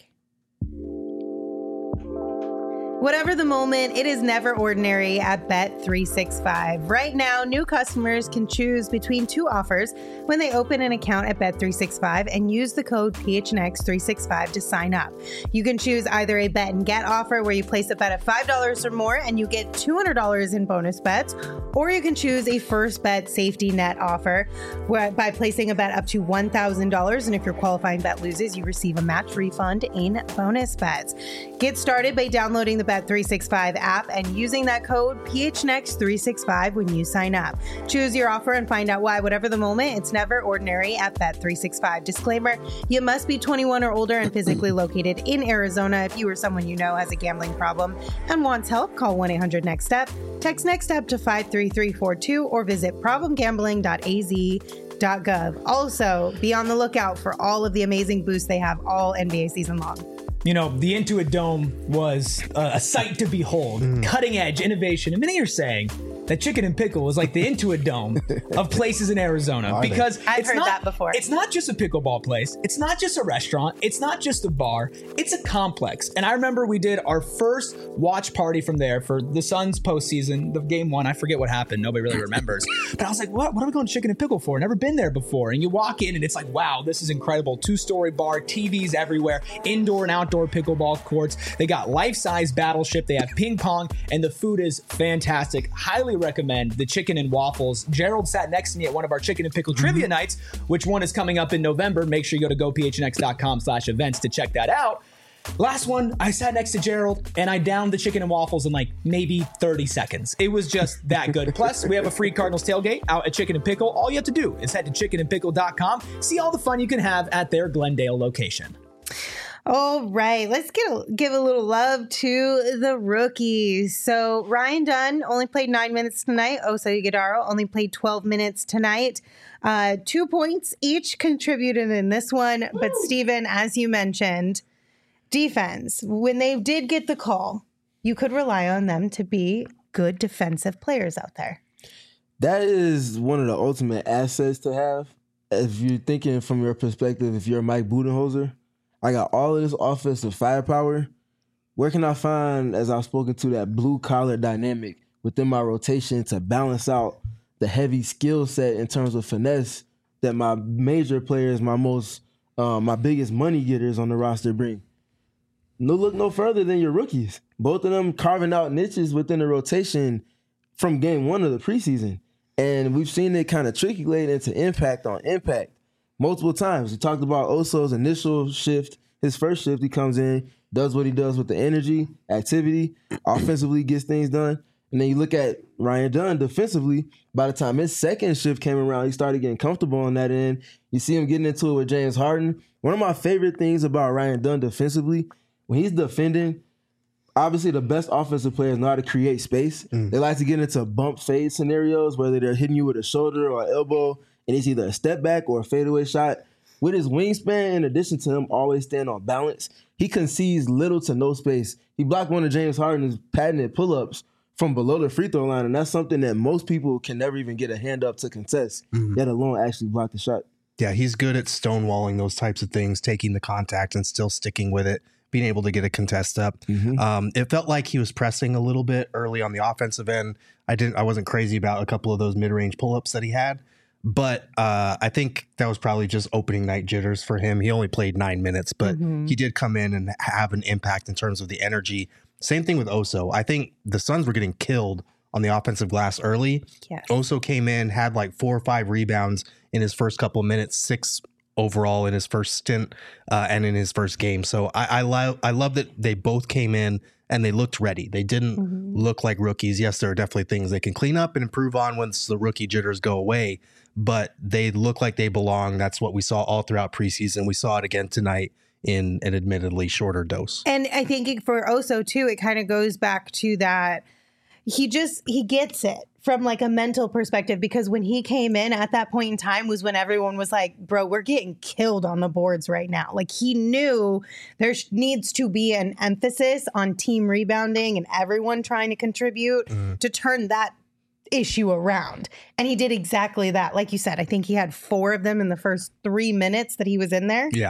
Whatever the moment, it is never ordinary at Bet three sixty-five. Right now, new customers can choose between two offers when they open an account at Bet three sixty-five and use the code P H N X three sixty-five to sign up. You can choose either a bet and get offer where you place a bet of five dollars or more and you get two hundred dollars in bonus bets, or you can choose a first bet safety net offer where by placing a bet up to one thousand dollars, and if your qualifying bet loses, you receive a match refund in bonus bets. Get started by downloading the Bet three sixty-five app and using that code P H N X three sixty-five when you sign up. Choose your offer and find out why. Whatever the moment, it's never ordinary at Bet three sixty-five. Disclaimer, you must be twenty-one or older and physically located in Arizona. If you or someone you know has a gambling problem and wants help, call one eight hundred next step. Text NEXTSTEP to five three three four two or visit problem gambling dot a z dot gov. Also, be on the lookout for all of the amazing boosts they have all N B A season long. You know, the Intuit Dome was uh, a sight to behold. Mm. Cutting edge innovation. And many are saying that Chicken and Pickle was like the Intuit Dome of places in Arizona. Are because I've it's heard not, that before. It's not just a pickleball place. It's not just a restaurant. It's not just a bar. It's a complex. And I remember we did our first watch party from there for the Suns postseason, the game one. I forget what happened. Nobody really remembers. But I was like, what, what are we going to Chicken and Pickle for? Never been there before. And you walk in and it's like, wow, this is incredible. Two-story bar, T Vs everywhere, indoor and outdoor pickleball courts. They got life-size Battleship. They have ping pong, and the food is fantastic. Highly recommend the chicken and waffles. Gerald sat next to me at one of our chicken and pickle mm-hmm. trivia nights, which one is coming up in November. Make sure you go to go p h n x dot com slash events to check that out. Last one, I sat next to Gerald and I downed the chicken and waffles in like maybe thirty seconds. It was just that good. Plus, we have a free Cardinals tailgate out at Chicken and Pickle. All you have to do is head to chicken and pickle dot com. See all the fun you can have at their Glendale location. All right, let's get a, give a little love to the rookies. So Ryan Dunn only played nine minutes tonight. Oso Ighodaro only played twelve minutes tonight. Uh, two points each contributed in this one. Woo. But Steven, as you mentioned, defense, when they did get the call, you could rely on them to be good defensive players out there. That is one of the ultimate assets to have. If you're thinking from your perspective, if you're Mike Budenholzer, I got all of this offensive firepower. Where can I find, as I've spoken to, that blue-collar dynamic within my rotation to balance out the heavy skill set in terms of finesse that my major players, my most, uh, my biggest money getters on the roster bring? No look no further than your rookies. Both of them carving out niches within the rotation from game one of the preseason. And we've seen it kind of trickle into impact on impact multiple times. We talked about Oso's initial shift. His first shift, he comes in, does what he does with the energy, activity, offensively gets things done. And then you look at Ryan Dunn defensively. By the time his second shift came around, he started getting comfortable on that end. You see him getting into it with James Harden. One of my favorite things about Ryan Dunn defensively, when he's defending, obviously the best offensive players know how to create space. Mm. They like to get into bump fade scenarios, whether they're hitting you with a shoulder or an elbow, and it's either a step back or a fadeaway shot. With his wingspan, in addition to him always staying on balance, he concedes little to no space. He blocked one of James Harden's patented pull-ups from below the free throw line, and that's something that most people can never even get a hand up to contest, mm-hmm. let alone actually block the shot. Yeah, he's good at stonewalling those types of things, taking the contact and still sticking with it, being able to get a contest up. Mm-hmm. Um, it felt like he was pressing a little bit early on the offensive end. I didn't. I wasn't crazy about a couple of those mid-range pull-ups that he had. But uh, I think that was probably just opening night jitters for him. He only played nine minutes, but mm-hmm. he did come in and have an impact in terms of the energy. Same thing with Oso. I think the Suns were getting killed on the offensive glass early. Yes. Oso came in, had like four or five rebounds in his first couple of minutes, six overall in his first stint uh, and in his first game. So I, I love I love that they both came in and they looked ready. They didn't mm-hmm. look like rookies. Yes, there are definitely things they can clean up and improve on once the rookie jitters go away, but they look like they belong. That's what we saw all throughout preseason. We saw it again tonight in an admittedly shorter dose. And I think for Oso too, it kind of goes back to that. He just, he gets it from like a mental perspective, because when he came in at that point in time was when everyone was like, bro, we're getting killed on the boards right now. Like he knew there needs to be an emphasis on team rebounding and everyone trying to contribute mm. to turn that issue around. And he did exactly that. Like you said, I think he had four of them in the first three minutes that he was in there. Yeah.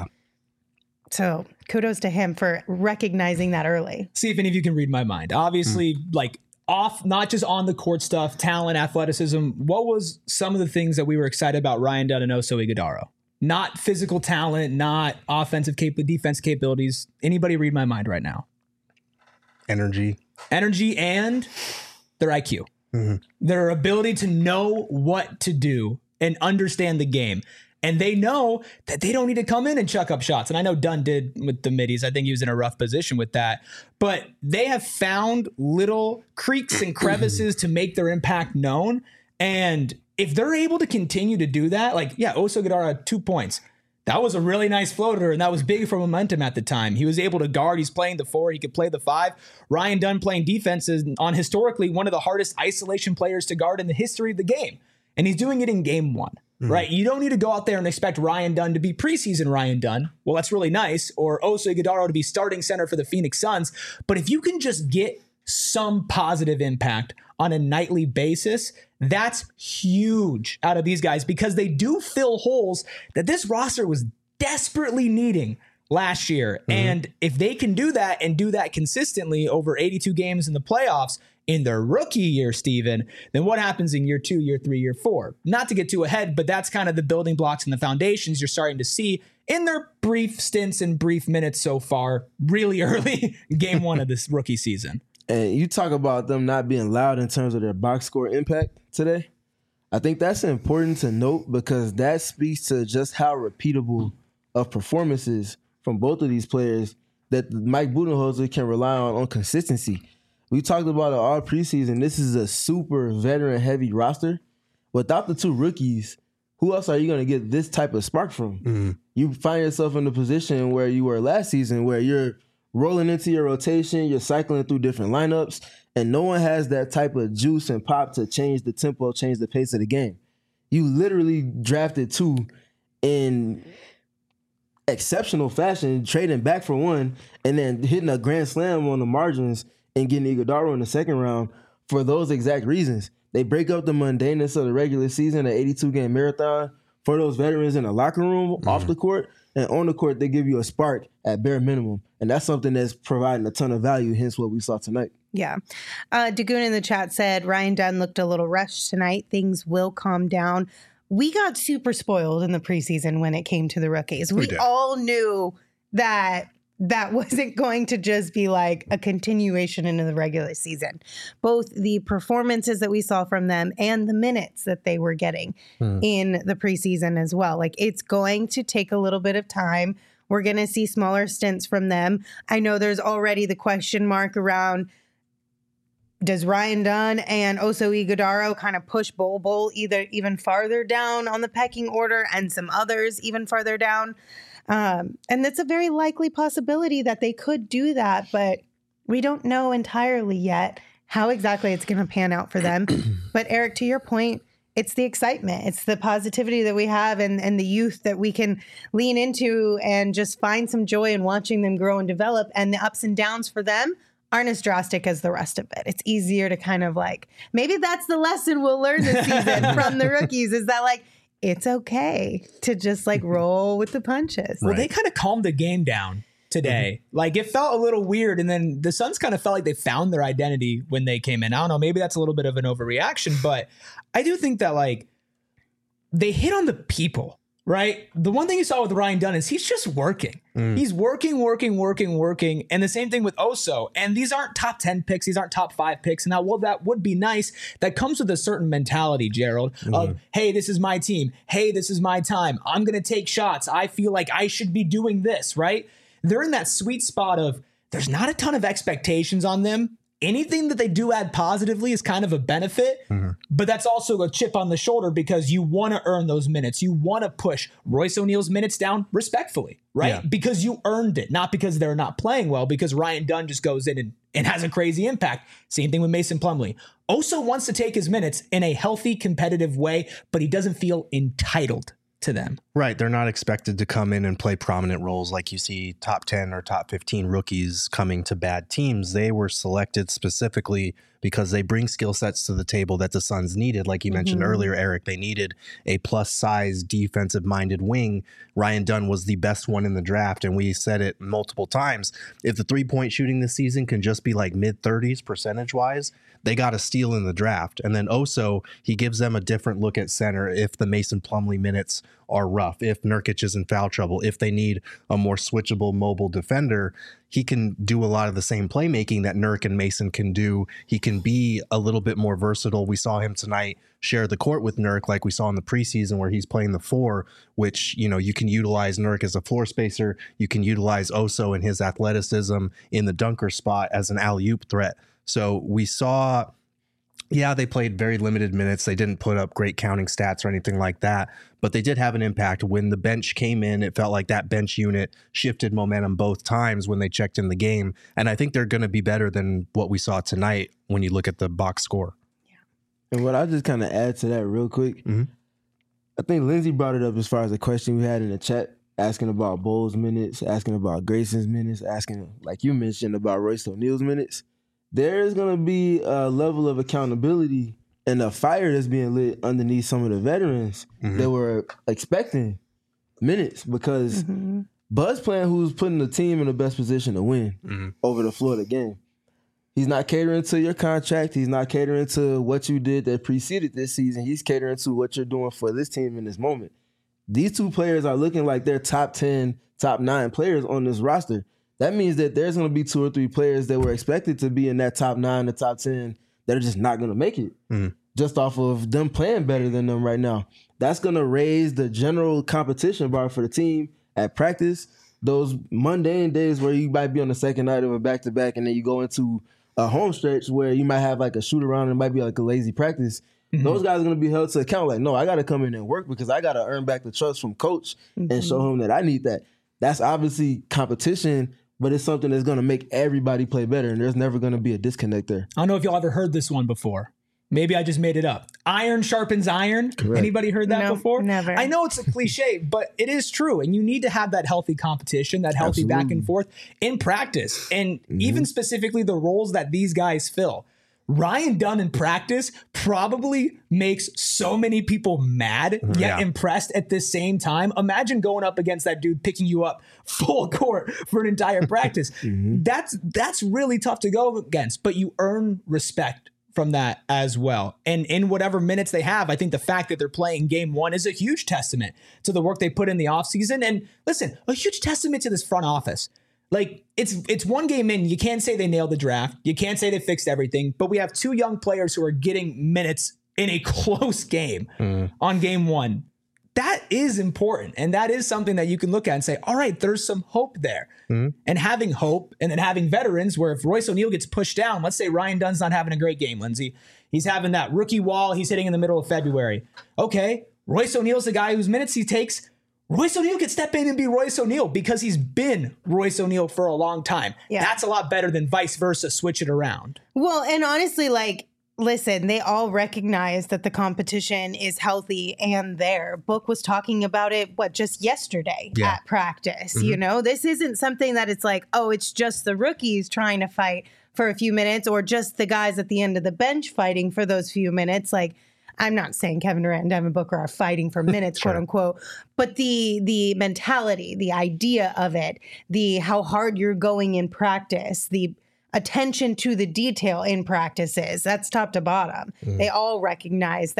So kudos to him for recognizing that early. See if any of you can read my mind. Obviously, mm. like off, not just on the court stuff, talent, athleticism. What was some of the things that we were excited about Ryan Dunn and Oso Ighodaro? Not physical talent, not offensive cap- defense capabilities. Anybody read my mind right now? Energy. Energy and their I Q. Mm-hmm. Their ability to know what to do and understand the game. And they know that they don't need to come in and chuck up shots. And I know Dunn did with the middies. I think he was in a rough position with that. But they have found little creeks and crevices to make their impact known. And if they're able to continue to do that, like, yeah, Oso Ighodaro had two points. That was a really nice floater, and that was big for momentum at the time. He was able to guard. He's playing the four. He could play the five. Ryan Dunn playing defense is on historically one of the hardest isolation players to guard in the history of the game. And he's doing it in game one. Mm-hmm. Right. You don't need to go out there and expect Ryan Dunn to be preseason Ryan Dunn. Well, that's really nice. Or Oso Ighodaro to be starting center for the Phoenix Suns. But if you can just get some positive impact on a nightly basis, that's huge out of these guys, because they do fill holes that this roster was desperately needing last year. Mm-hmm. And if they can do that and do that consistently over eighty-two games in the playoffs, in their rookie year, Steven, then what happens in year two, year three, year four? Not to get too ahead, but that's kind of the building blocks and the foundations you're starting to see in their brief stints and brief minutes so far, really early game one of this rookie season. And you talk about them not being loud in terms of their box score impact today. I think that's important to note, because that speaks to just how repeatable of performances from both of these players that Mike Budenholzer can rely on on consistency. We talked about it all preseason. This is a super veteran-heavy roster. Without the two rookies, who else are you going to get this type of spark from? Mm-hmm. You find yourself in the position where you were last season, where you're rolling into your rotation, you're cycling through different lineups, and no one has that type of juice and pop to change the tempo, change the pace of the game. You literally drafted two in exceptional fashion, trading back for one, and then hitting a grand slam on the margins and getting Ighodaro in the second round for those exact reasons. They break up the mundaneness of the regular season, an eighty-two game marathon, for those veterans in the locker room, mm-hmm. off the court, and on the court, they give you a spark at bare minimum. And that's something that's providing a ton of value, hence what we saw tonight. Yeah. Uh, Dagoon in the chat said, Ryan Dunn looked a little rushed tonight. Things will calm down. We got super spoiled in the preseason when it came to the rookies. We, we all knew that that wasn't going to just be like a continuation into the regular season. Both the performances that we saw from them and the minutes that they were getting hmm. in the preseason as well. Like, it's going to take a little bit of time. We're going to see smaller stints from them. I know there's already the question mark around, does Ryan Dunn and Oso Ighodaro kind of push Bol Bol either even farther down on the pecking order and some others even farther down? Um, and it's a very likely possibility that they could do that, but we don't know entirely yet how exactly it's going to pan out for them. But Eric, to your point, it's the excitement. It's the positivity that we have and, and the youth that we can lean into and just find some joy in watching them grow and develop. And the ups and downs for them aren't as drastic as the rest of it. It's easier to kind of like, maybe that's the lesson we'll learn this season from the rookies, is that like, it's okay to just like roll with the punches. Well, right. They kind of calmed the game down today. Mm-hmm. Like, it felt a little weird. And then the Suns kind of felt like they found their identity when they came in. I don't know, maybe that's a little bit of an overreaction, but I do think that like they hit on the people right? The one thing you saw with Ryan Dunn is he's just working. Mm. He's working, working, working, working. And the same thing with Oso. And these aren't top ten picks. These aren't top five picks. Now, well, that would be nice. That comes with a certain mentality, Gerald, mm. of, hey, this is my team. Hey, this is my time. I'm going to take shots. I feel like I should be doing this, right? They're in that sweet spot of there's not a ton of expectations on them. Anything that they do add positively is kind of a benefit, mm-hmm. but that's also a chip on the shoulder because you want to earn those minutes. You want to push Royce O'Neal's minutes down respectfully, right? Yeah. Because you earned it, not because they're not playing well, because Ryan Dunn just goes in and, and has a crazy impact. Same thing with Mason Plumlee. Oso wants to take his minutes in a healthy, competitive way, but he doesn't feel entitled to them. Right. They're not expected to come in and play prominent roles like you see top ten or top fifteen rookies coming to bad teams. They were selected specifically because they bring skill sets to the table that the Suns needed. Like you mm-hmm. mentioned earlier, Eric, they needed a plus size defensive minded wing. Ryan Dunn was the best one in the draft. And we said it multiple times. If the three point shooting this season can just be like mid thirties percentage wise, they got a steal in the draft. And then Oso, he gives them a different look at center if the Mason Plumlee minutes are rough, if Nurkic is in foul trouble, if they need a more switchable mobile defender. He can do a lot of the same playmaking that Nurk and Mason can do. He can be a little bit more versatile. We saw him tonight share the court with Nurk like we saw in the preseason where he's playing the four, which, you know, you can utilize Nurk as a floor spacer. You can utilize Oso and his athleticism in the dunker spot as an alley-oop threat. So we saw, yeah, they played very limited minutes. They didn't put up great counting stats or anything like that, but they did have an impact. When the bench came in, it felt like that bench unit shifted momentum both times when they checked in the game. And I think they're going to be better than what we saw tonight when you look at the box score. Yeah. And what I just kind of add to that real quick, mm-hmm. I think Lindsay brought it up as far as the question we had in the chat, asking about Bowles' minutes, asking about Grayson's minutes, asking, like you mentioned, about Royce O'Neal's minutes. There is going to be a level of accountability and a fire that's being lit underneath some of the veterans mm-hmm. that were expecting minutes because mm-hmm. Bud's playing who's putting the team in the best position to win mm-hmm. over the floor of the game. He's not catering to your contract. He's not catering to what you did that preceded this season. He's catering to what you're doing for this team in this moment. These two players are looking like they're top ten, top nine players on this roster. That means that there's going to be two or three players that were expected to be in that top nine, the top ten, that are just not going to make it mm-hmm. just off of them playing better than them right now. That's going to raise the general competition bar for the team at practice. Those mundane days where you might be on the second night of a back-to-back and then you go into a home stretch where you might have like a shoot around and it might be like a lazy practice. Mm-hmm. Those guys are going to be held to account like, no, I got to come in and work because I got to earn back the trust from coach mm-hmm. and show him that I need that. That's obviously competition, but it's something that's going to make everybody play better, and there's never going to be a disconnect there. I don't know if y'all ever heard this one before. Maybe I just made it up. Iron sharpens iron. Correct. Anybody heard that no, before? Never. I know it's a cliche, but it is true. And you need to have that healthy competition, that healthy Absolutely. back and forth in practice. And mm-hmm. even specifically the roles that these guys fill. Ryan Dunn in practice probably makes so many people mad, yet yeah. impressed at the same time. Imagine going up against that dude picking you up full court for an entire practice. mm-hmm. That's that's really tough to go against, but you earn respect from that as well. And in whatever minutes they have, I think the fact that they're playing game one is a huge testament to the work they put in the offseason. And listen, a huge testament to this front office. Like, it's it's one game in. You can't say they nailed the draft. You can't say they fixed everything. But we have two young players who are getting minutes in a close game mm. on game one. That is important. And that is something that you can look at and say, all right, there's some hope there. Mm. And having hope and then having veterans where if Royce O'Neal gets pushed down, let's say Ryan Dunn's not having a great game, Lindsay. He's having that rookie wall. He's hitting in the middle of February. Okay, Royce O'Neal's the guy whose minutes he takes. Royce O'Neal can step in and be Royce O'Neal because he's been Royce O'Neal for a long time. Yeah. That's a lot better than vice versa, switch it around. Well, and honestly, like, listen, they all recognize that the competition is healthy and there. Book was talking about it, what, just yesterday yeah. at practice. Mm-hmm. You know, this isn't something that it's like, oh, it's just the rookies trying to fight for a few minutes or just the guys at the end of the bench fighting for those few minutes. Like, I'm not saying Kevin Durant and Devin Booker are fighting for minutes, sure. quote unquote, but the the mentality, the idea of it, the how hard you're going in practice, the attention to the detail in practices, that's top to bottom. Mm. They all recognize that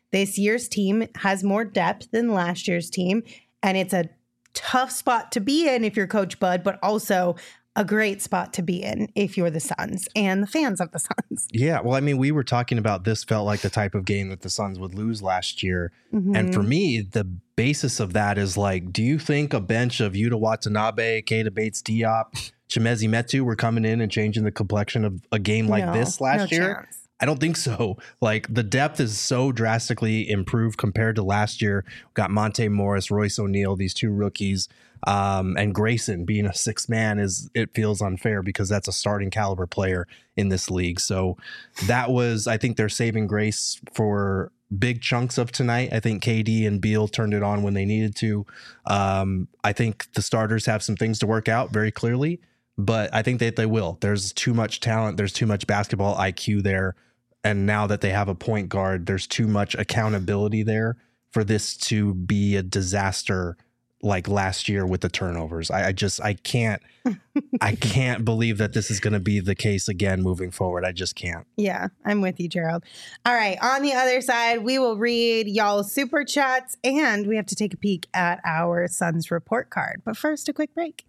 This year's team has more depth than last year's team, and it's a tough spot to be in if you're Coach Bud, but also a great spot to be in if you're the Suns and the fans of the Suns. Yeah, well, I mean, we were talking about this felt like the type of game that the Suns would lose last year. Mm-hmm. And for me, the basis of that is like, do you think a bench of Yuta Watanabe, Keita Bates-Diop, Chimezie Metu were coming in and changing the complexion of a game like no, this last no year? Chance. I don't think so. Like, the depth is so drastically improved compared to last year. We've got Monte Morris, Royce O'Neal, these two rookies, um, and Grayson being a sixth man is, it feels unfair because that's a starting caliber player in this league. So that was, I think, their saving grace for big chunks of tonight. I think K D and Beal turned it on when they needed to. Um, I think the starters have some things to work out very clearly, but I think that they will. There's too much talent. There's too much basketball I Q there. And now that they have a point guard, there's too much accountability there for this to be a disaster like last year with the turnovers. I, I just, I can't, I can't believe that this is going to be the case again moving forward. I just can't. Yeah, I'm with you, Gerald. All right. On the other side, we will read y'all's super chats and we have to take a peek at our Suns report card. But first, a quick break.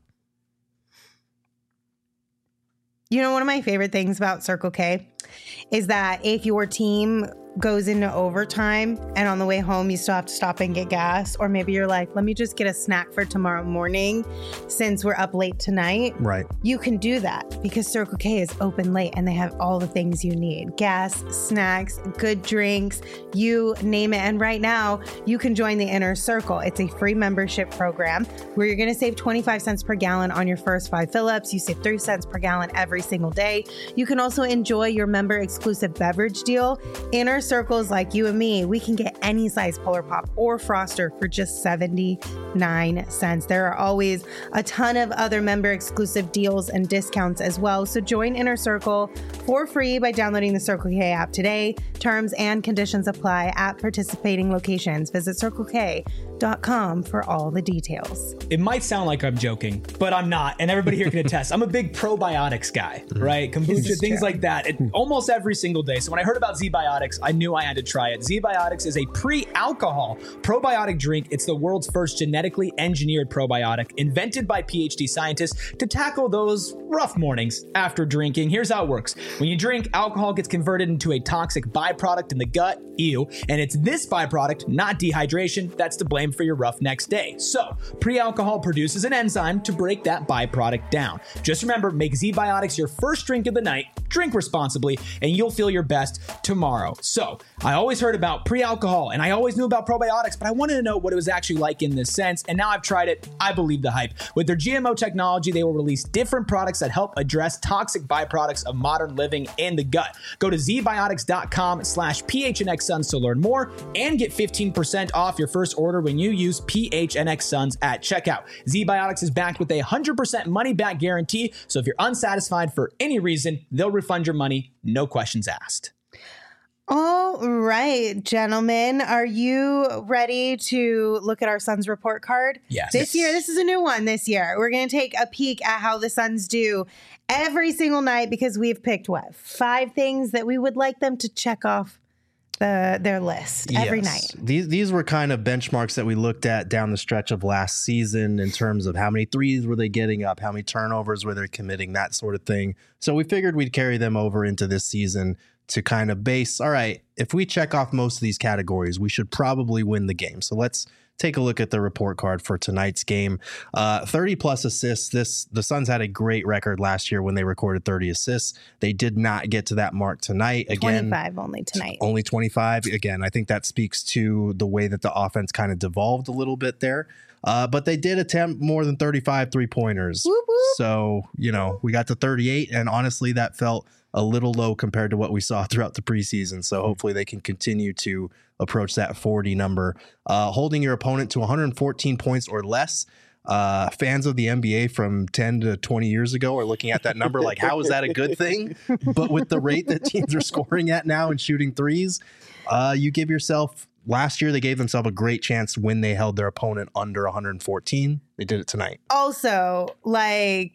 You know, one of my favorite things about Circle K is that if your team goes into overtime and on the way home you still have to stop and get gas, or maybe you're like, let me just get a snack for tomorrow morning since we're up late tonight. Right. You can do that because Circle K is open late and they have all the things you need. Gas, snacks, good drinks, you name it. And right now you can join the Inner Circle. It's a free membership program where you're going to save twenty-five cents per gallon on your first five fill-ups. You save three cents per gallon every single day. You can also enjoy your member exclusive beverage deal. Inner Circles like you and me, we can get any size Polar Pop or Froster for just seventy-nine cents. There are always a ton of other member exclusive deals and discounts as well. So join Inner Circle for free by downloading the Circle K app today. Terms and conditions apply at participating locations. Visit circle k dot com for all the details. It might sound like I'm joking, but I'm not. And everybody here can attest. I'm a big probiotics guy, right? Kombucha, things like that. It, almost every single day. So when I heard about Z-Biotics, I knew I had to try it. Z-Biotics is a pre-alcohol probiotic drink. It's the world's first genetically engineered probiotic invented by PhD scientists to tackle those rough mornings after drinking. Here's how it works. When you drink, alcohol gets converted into a toxic byproduct in the gut, ew, and it's this byproduct, not dehydration, that's to blame for your rough next day. So, pre-alcohol produces an enzyme to break that byproduct down. Just remember, make Z-Biotics your first drink of the night, drink responsibly, and you'll feel your best tomorrow. So, I always heard about pre-alcohol, and I always knew about probiotics, but I wanted to know what it was actually like in this sense, and now I've tried it. I believe the hype. With their G M O technology, they will release different products that help address toxic byproducts of modern living in the gut. Go to zbiotics.com slash PHNXSuns to learn more and get fifteen percent off your first order when you use PHNXSuns at checkout. Z-Biotics is backed with a one hundred percent money-back guarantee, so if you're unsatisfied for any reason, they'll refund your money, no questions asked. All right, gentlemen, are you ready to look at our Suns report card? Yes. This year, this is a new one this year. We're going to take a peek at how the Suns do every single night because we've picked, what, five things that we would like them to check off the their list every Yes. night. These these were kind of benchmarks that we looked at down the stretch of last season in terms of how many threes were they getting up, how many turnovers were they committing, that sort of thing. So we figured we'd carry them over into this season to kind of base, all right, if we check off most of these categories, we should probably win the game. So let's take a look at the report card for tonight's game. Uh, thirty plus assists. This the Suns had a great record last year when they recorded thirty assists. They did not get to that mark tonight. Again, twenty-five only tonight. Only twenty-five. Again, I think that speaks to the way that the offense kind of devolved a little bit there. Uh, but they did attempt more than thirty-five three-pointers. Whoop, whoop. So, you know, we got to thirty-eight, and honestly, that felt a little low compared to what we saw throughout the preseason. So hopefully they can continue to approach that forty number. Uh, holding your opponent to one hundred fourteen points or less. Uh, fans of the N B A from ten to twenty years ago are looking at that number like, how is that a good thing? But with the rate that teams are scoring at now and shooting threes, uh, you give yourself... Last year, they gave themselves a great chance when they held their opponent under one hundred fourteen. They did it tonight. Also, like...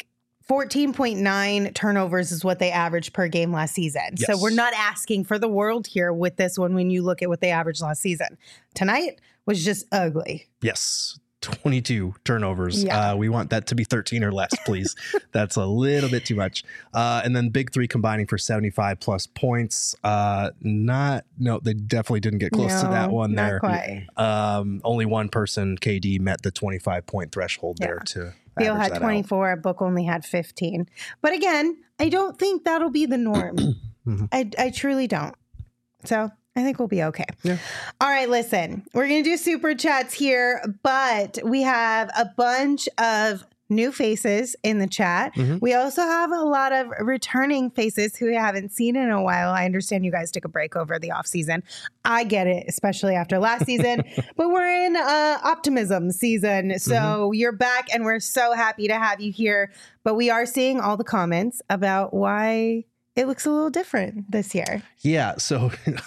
fourteen point nine turnovers is what they averaged per game last season. So Yes. we're not asking for the world here with this one when you look at what they averaged last season. Tonight was just ugly. Yes. twenty-two turnovers. Yeah. Uh, we want that to be thirteen or less, please. That's a little bit too much. Uh, and then big three combining for seventy-five plus points. Uh, not, no, they definitely didn't get close to No, that one not there. quite. Um, only one person, K D, met the twenty-five point threshold there Yeah. to Theo average had that out. twenty-four. Book only had fifteen. But again, I don't think that'll be the norm. Mhm. I, I truly don't. So I think we'll be okay. Yeah. All right, listen, we're going to do super chats here, but we have a bunch of new faces in the chat. Mhm. We also have a lot of returning faces who we haven't seen in a while. I understand you guys took a break over the off season. I get it, especially after last season, but we're in uh, optimism season. So Mm-hmm. you're back and we're so happy to have you here. But we are seeing all the comments about why it looks a little different this year. Yeah. So,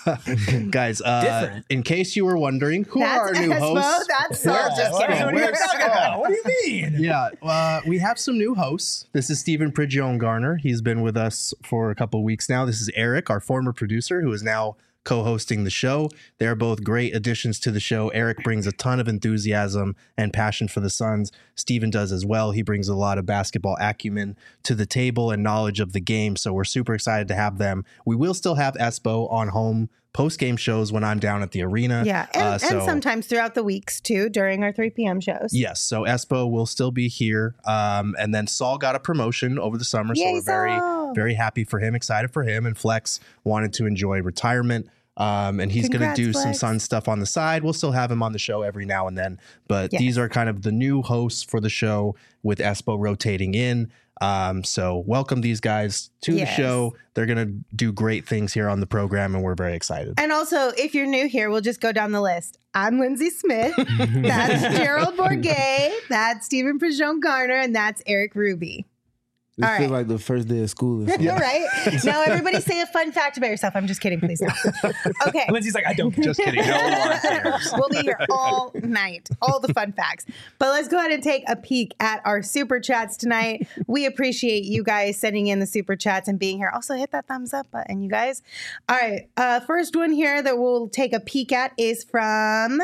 guys, uh, Different. in case you were wondering, who That's are our new Espo, hosts? that's Saul. Where- Just kidding. What are you talking about? What do you mean? Yeah, uh, we have some new hosts. This is Stephen Prigione Garner. He's been with us for a couple of weeks now. This is Eric, our former producer, who is now co-hosting the show. They're both great additions to the show. Eric brings a ton of enthusiasm and passion for the Suns. Stephen does as well. He brings a lot of basketball acumen to the table and knowledge of the game. So we're super excited to have them. We will still have Espo on home post-game shows when I'm down at the arena. Yeah, and, Uh, and so- sometimes throughout the weeks too, during our three p.m. shows. Yes, so Espo will still be here. Um, and then Saul got a promotion over the summer, so Yay, we're very, Saul. very happy for him, excited for him. And Flex wanted to enjoy retirement. Um, and he's going to Congrats, do some Flex. Sun stuff on the side. We'll still have him on the show every now and then. But Yes. these are kind of the new hosts for the show with Espo rotating in. Um, so welcome these guys to Yes. the show. They're going to do great things here on the program, and we're very excited. And also, if you're new here, we'll just go down the list. I'm Lindsay Smith. That's Gerald Bourget. That's Stephen Prigione Garner. And that's Eric Ruby. It All feels right. like the first day of school. Or something. All right. Now, everybody say a fun fact about yourself. I'm just kidding. Please don't. Okay. Lindsay's like, I don't care. Just kidding. No one cares. We'll be here all night, all the fun facts. But let's go ahead and take a peek at our super chats tonight. We appreciate you guys sending in the super chats and being here. Also, hit that thumbs up button, you guys. All right. Uh, first one here that we'll take a peek at is from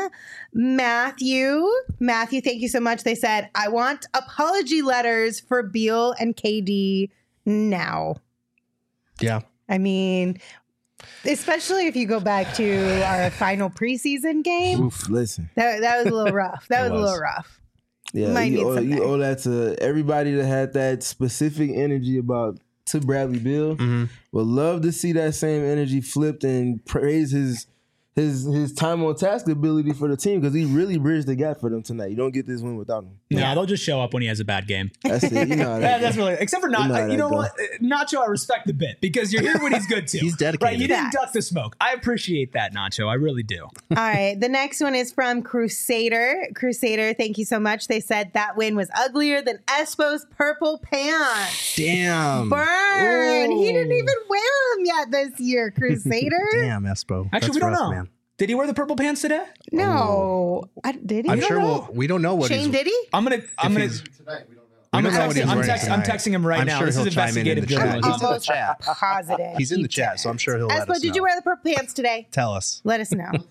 Matthew. Matthew, thank you so much. They said, I want apology letters for Beal and K D now. Yeah. I mean, especially if you go back to our final preseason game, Oof, listen. that, that was a little rough. That was, It a was. little rough. Yeah, Might need you owe, something. you owe that to everybody that had that specific energy about to Bradley Beal. Mhm. Would love to see that same energy flipped and praise his his his time on task ability for the team because he really bridged the gap for them tonight. You don't get this win without him. Yeah, they'll just show up when he has a bad game. That's it. You know how Yeah, that that's goes. really except for You not. know how You know, that what? Nacho, I respect the bit because you're here when he's good too. He's dedicated. Right? You didn't Facts. duck the smoke. I appreciate that, Nacho. I really do. All right. The next one is from Crusader. Crusader, thank you so much. They said that win was uglier than Espo's purple pants. Damn. Burn. He didn't Ooh. even wear them yet this year, Crusader. Damn, Espo. Actually, That's we don't rough, know. man. Did he wear the purple pants today? No. I, did he? I'm You sure don't we'll, know? we don't know what Shane, he's. did he? I'm gonna. I'm gonna. he's- Tonight, we don't know. I'm, We don't know what texting, he's I'm, wearing text, I'm tonight. texting him right I'm now. sure This he'll is chime in in investigative the chat. journalism. He's in the Almost chat. positive. He's in he the chat, did. so I'm sure he'll let Espo, us did know. you wear the purple pants today? Tell us, Let us know.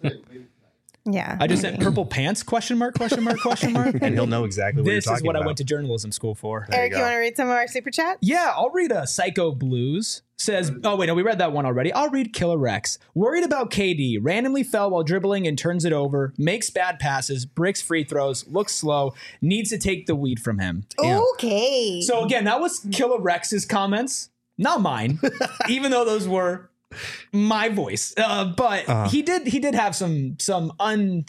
Yeah. I just said purple pants? Question mark? Question mark? Question mark? and he'll know exactly what This you're is talking what about. I went to journalism school for. There you Eric, you, go. want to read some of our super chats? Yeah, I'll read a Psycho Blues. Says, oh wait, no, we read that one already. I'll read Killer Rex. Worried about K D. Randomly fell while dribbling and turns it over. Makes bad passes. Bricks free throws. Looks slow. Needs to take the weed from him. Damn. Okay. So again, that was Killer Rex's comments, not mine. Even though those were my voice, uh, but Uh-huh. he did he did have some some un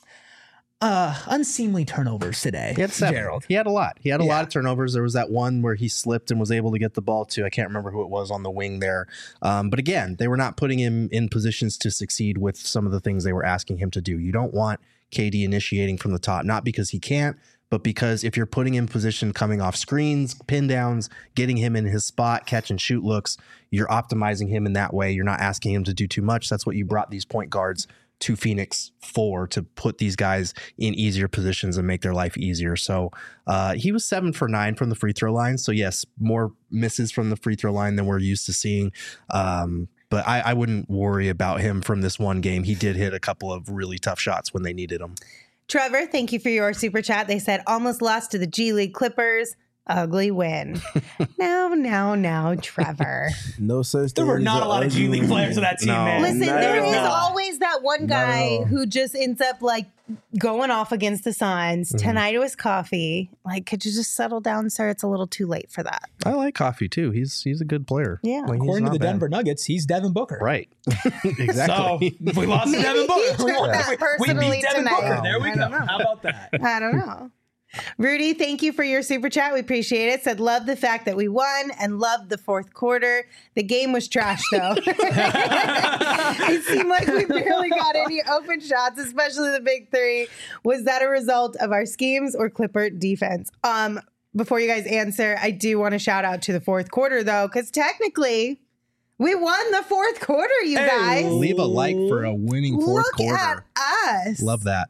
uh unseemly turnovers today. He had seven. Gerald. He had a lot. He had a Yeah. lot of turnovers. There was that one where he slipped and was able to get the ball to. I can't remember who it was on the wing there. Um, but again, they were not putting him in positions to succeed with some of the things they were asking him to do. You don't want K D initiating from the top, not because he can't, but because if you're putting him in position coming off screens, pin downs, getting him in his spot, catch and shoot looks, you're optimizing him in that way. You're not asking him to do too much. That's what you brought these point guards to Phoenix for to put these guys in easier positions and make their life easier. So uh, he was seven for nine from the free throw line. So yes, more misses from the free throw line than we're used to seeing. Um, but I, I wouldn't worry about him from this one game. He did hit a couple of really tough shots when they needed them. Trevor, thank you for your super chat. They said almost lost to the G League Clippers. Ugly win. now, now, now, Trevor. No such There thing were as not an a lot of G ugly League players win. on that team, No. man. Listen, Not there at is all. always that one Not at guy all. who just ends up like going off against the Suns. Mhm. Tonight it was Coffee. Like, could you just settle down, sir? It's a little too late for that. I like Coffee too. He's he's a good player. Yeah. Like, he's According to not the bad. Denver Nuggets, he's Devin Booker. Right. So Exactly. if we lost to Maybe Devin he Booker. We, took won. that we, we personally beat Devin tonight. Booker. There we I go. don't know. How about that? I don't know. Rudy, thank you for your super chat. We appreciate it. Said, love the fact that we won and loved the fourth quarter. The game was trash, though. It seemed like we barely got any open shots, especially the big three. Was that a result of our schemes or Clipper defense? Um, before you guys answer, I do want to shout out to the fourth quarter, though, because technically we won the fourth quarter, you Hey. guys. Leave a like for a winning fourth Look quarter. at us. Love that.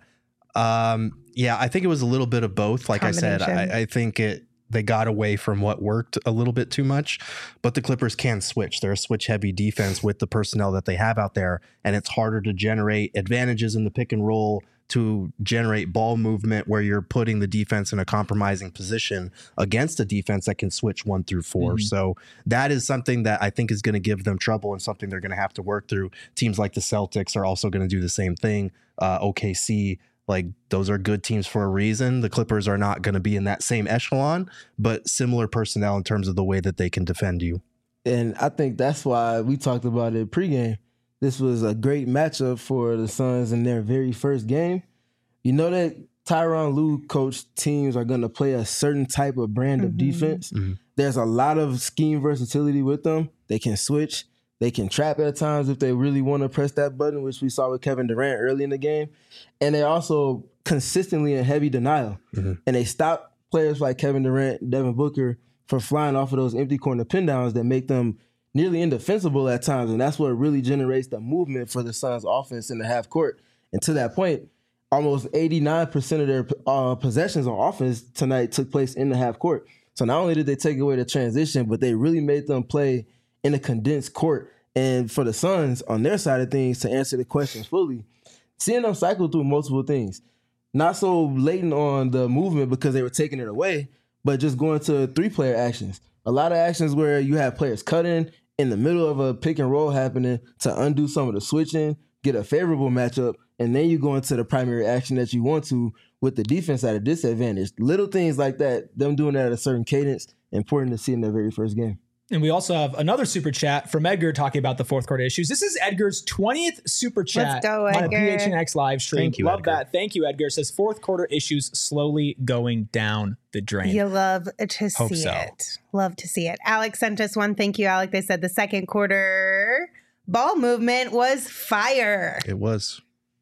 Um, yeah, I think it was a little bit of both. Like I said, Combination. I, I think it they got away from what worked a little bit too much, but the Clippers can switch. They're a switch heavy defense with the personnel that they have out there, and it's harder to generate advantages in the pick and roll to generate ball movement where you're putting the defense in a compromising position against a defense that can switch one through four. Mhm. So that is something that I think is going to give them trouble and something they're going to have to work through. Teams like the Celtics are also going to do the same thing. Uh, O K C, like those are good teams for a reason. The Clippers are not going to be in that same echelon, but similar personnel in terms of the way that they can defend you. And I think that's why we talked about it pregame. This was a great matchup for the Suns in their very first game. You know that Tyronn Lue coached teams are going to play a certain type of brand of Mhm. defense. Mhm. There's a lot of scheme versatility with them. They can switch. They can trap at times if they really want to press that button, which we saw with Kevin Durant early in the game. And they're also consistently in heavy denial. Mhm. And they stop players like Kevin Durant, Devin Booker from flying off of those empty corner pin downs that make them nearly indefensible at times. And that's what really generates the movement for the Suns offense in the half court. And to that point, almost eighty-nine percent of their uh, possessions on offense tonight took place in the half court. So not only did they take away the transition, but they really made them play in a condensed court. And for the Suns, on their side of things, to answer the question fully, seeing them cycle through multiple things, not so latent on the movement because they were taking it away, but just going to three-player actions. A lot of actions where you have players cutting in the middle of a pick and roll happening to undo some of the switching, get a favorable matchup, and then you go into the primary action that you want to with the defense at a disadvantage. Little things like that, them doing that at a certain cadence, important to see in their very first game. And we also have another super chat from Edgar talking about the fourth quarter issues. This is Edgar's twentieth super chat Let's go, on a Edgar. P H N X live stream. Thank you, Love Edgar. that. Thank you, Edgar. Says fourth quarter issues slowly going down the drain. You love to Hope see so. it. Love to see it. Alex sent us one. Thank you, Alex. They said the second quarter ball movement was fire. It was.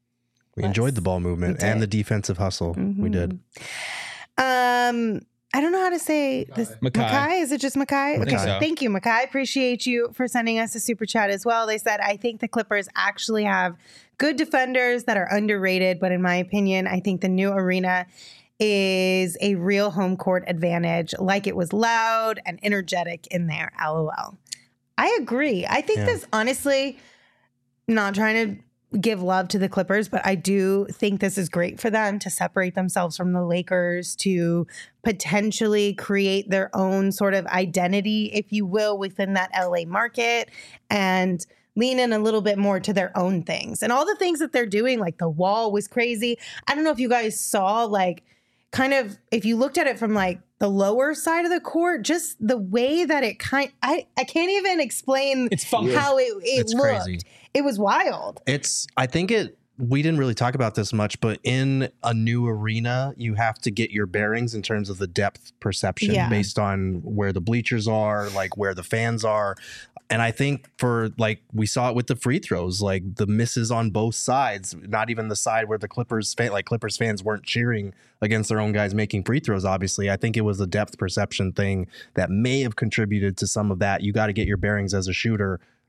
We Yes, enjoyed the ball movement we and the did. defensive hustle. We did. Um, I don't know how to say this. Makai. Makai? Is it just Makai? Makai. Okay. So. Thank you, Makai. Appreciate you for sending us a super chat as well. They said, I think the Clippers actually have good defenders that are underrated, but in my opinion, I think the new arena is a real home court advantage. Like it was loud and energetic in there. LOL. I agree. I think Yeah. this, honestly, not trying to give love to the Clippers, but I do think this is great for them to separate themselves from the Lakers, to potentially create their own sort of identity, if you will, within that L A market and lean in a little bit more to their own things. And all the things that they're doing, like the wall was crazy. I don't know if you guys saw, like, kind of, if you looked at it from like the lower side of the court, just the way that it kind, I, I can't even explain It's funky. how it, it It's looked. crazy. It was wild. It's, I think it, we didn't really talk about this much, but in a new arena, you have to get your bearings in terms of the depth perception Yeah. based on where the bleachers are, like where the fans are. And I think for, like, we saw it with the free throws, like the misses on both sides, not even the side where the Clippers fan, like Clippers fans weren't cheering against their own guys making free throws. Obviously, I think it was a depth perception thing that may have contributed to some of that. You got to get your bearings as a shooter.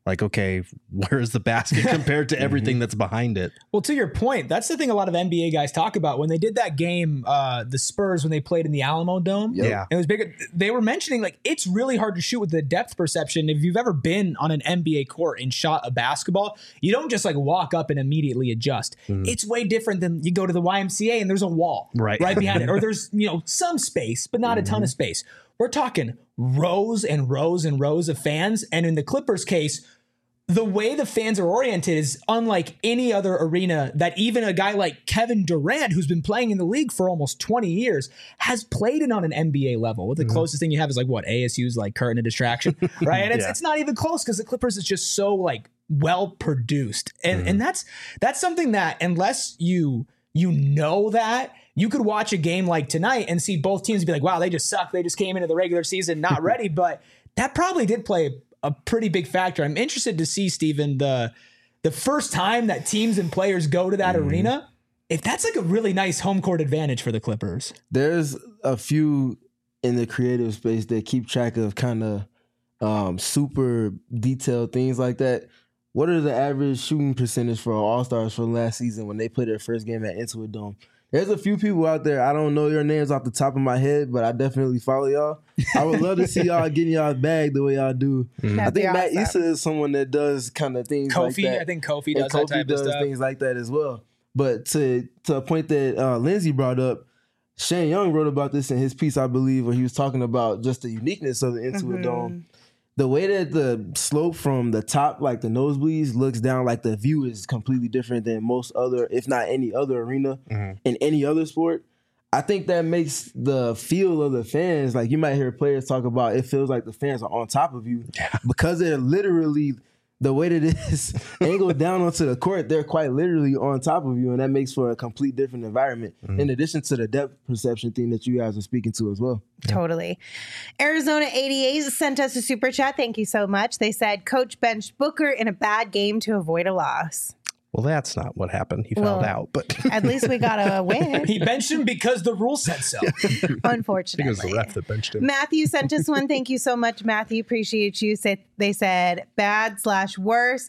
Like, okay, where's the basket compared to everything that's behind it? Well, to your point, that's the thing a lot of N B A guys talk about. When they did that game, uh, the Spurs, when they played in the Alamo Dome, Yep. Yeah. it was big. They were mentioning like it's really hard to shoot with the depth perception. If you've ever been on an N B A court and shot a basketball, you don't just like walk up and immediately adjust. Mm. It's way different than you go to the Y M C A and there's a wall Right. right behind it, or there's you know some space, but not a ton of space. We're talking rows and rows and rows of fans, and in the Clippers case, the way the fans are oriented is unlike any other arena that even a guy like Kevin Durant, who's been playing in the league for almost twenty years, has played in on an N B A level. The mm-hmm. closest thing you have is like what A S U's like curtain of distraction, right? And it's yeah. it's not even close because the Clippers is just so like well produced, and mm-hmm. and that's that's something that unless you you know that. You could watch a game like tonight and see both teams be like, wow, they just suck. They just came into the regular season not ready. But that probably did play a pretty big factor. I'm interested to see, Steven, the the first time that teams and players go to that mm-hmm. arena, if that's like a really nice home court advantage for the Clippers. There's a few in the creative space that keep track of kind of um, super detailed things like that. What are the average shooting percentage for All-Stars from last season when they played their first game at Intuit Dome? There's a few people out there. I don't know your names off the top of my head, but I definitely follow y'all. I would love to see y'all getting y'all bag the way y'all do. Mm-hmm. I think Matt Issa is someone that does kind of things Kofi, like that. I think Kofi does and Kofi that type does of stuff. things like that as well. But to to a point that uh, Lindsay brought up, Shane Young wrote about this in his piece, I believe, where he was talking about just the uniqueness of the Intuit mm-hmm. Dome. The way that the slope from the top, like the nosebleeds, looks down, like the view is completely different than most other, if not any other arena mm-hmm. in any other sport. I think that makes the feel of the fans, like you might hear players talk about, it feels like the fans are on top of you yeah. because they're literally, the way that it is angled down onto the court, they're quite literally on top of you, and that makes for a complete different environment, mm-hmm. in addition to the depth perception thing that you guys are speaking to as well. Totally. Arizona eighty-eight sent us a super chat. Thank you so much. They said, Coach benched Booker in a bad game to avoid a loss. Well, that's not what happened. He well, fouled out, but at least we got a win. He benched him because the rule said so. Unfortunately. I think it was the ref that benched him. Matthew sent us one. Thank you so much, Matthew. Appreciate you. They said bad slash worse.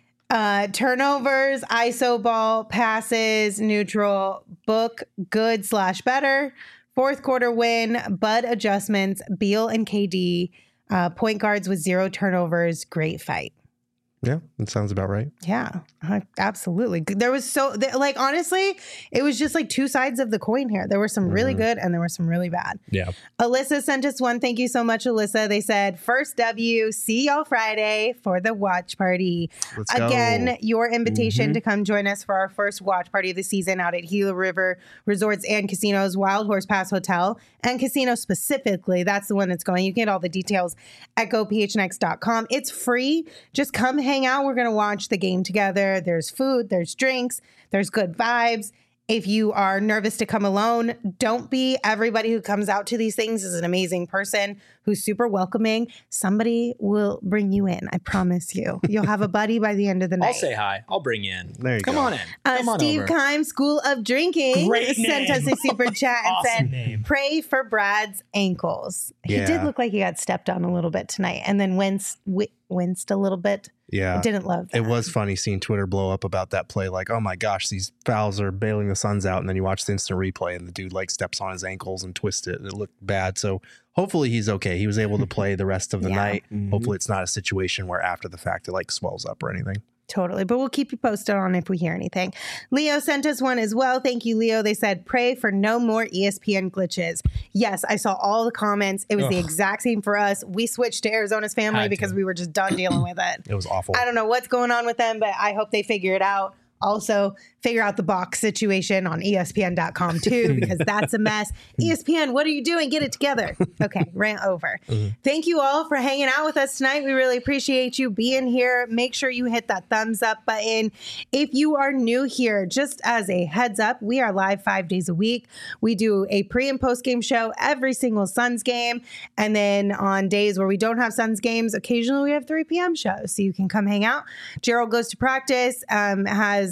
Uh, turnovers, I S O ball, passes, neutral, book, good slash better. Fourth quarter win, Bud adjustments, Beal and K D, uh, point guards with zero turnovers, great fight. Yeah, that sounds about right. Yeah, absolutely. There was so, like, honestly, it was just like two sides of the coin here. There were some really mm-hmm. good and there were some really bad. Yeah. Alyssa sent us one. Thank you so much, Alyssa. They said, first W, see y'all Friday for the watch party. Let's Again, go. your invitation mm-hmm. to come join us for our first watch party of the season out at Gila River Resorts and Casinos, Wild Horse Pass Hotel and Casino specifically. That's the one that's going. You can get all the details at go p h n x dot com. It's free. Just come hang out. We're going to watch the game together. There's food, there's drinks, there's good vibes. If you are nervous to come alone, don't be. Everybody who comes out to these things is an amazing person who's super welcoming. Somebody will bring you in. I promise you. You'll have a buddy by the end of the night. I'll say hi. I'll bring you in. There you Come go. on in. Uh, Come on Steve over. Kime, School of Drinking, Great sent name. us a super chat and Awesome said, name. pray for Brad's ankles. He Yeah. did look like he got stepped on a little bit tonight and then winced, wi- winced a little bit. Yeah. I didn't love that. It was funny seeing Twitter blow up about that play. Like, oh my gosh, these fouls are bailing the Suns out. And then you watch the instant replay and the dude like steps on his ankles and twists it. And it looked bad. So hopefully he's okay. He was able to play the rest of the Yeah. night. Mm-hmm. Hopefully it's not a situation where after the fact it like swells up or anything. Totally. But we'll keep you posted on if we hear anything. Leo sent us one as well. Thank you, Leo. They said, pray for no more E S P N glitches. Yes, I saw all the comments. It was Ugh. the exact same for us. We switched to Arizona's family Had because to. we were just done dealing with it. It was awful. I don't know what's going on with them, but I hope they figure it out. Also, figure out the box situation on E S P N dot com too, because that's a mess. E S P N, what are you doing? Get it together. Okay, rant over. Mm-hmm. Thank you all for hanging out with us tonight. We really appreciate you being here. Make sure you hit that thumbs up button. If you are new here, just as a heads up, we are live five days a week. We do a pre and post game show every single Suns game. And then on days where we don't have Suns games, occasionally we have three p.m. shows. So you can come hang out. Gerald goes to practice, um, has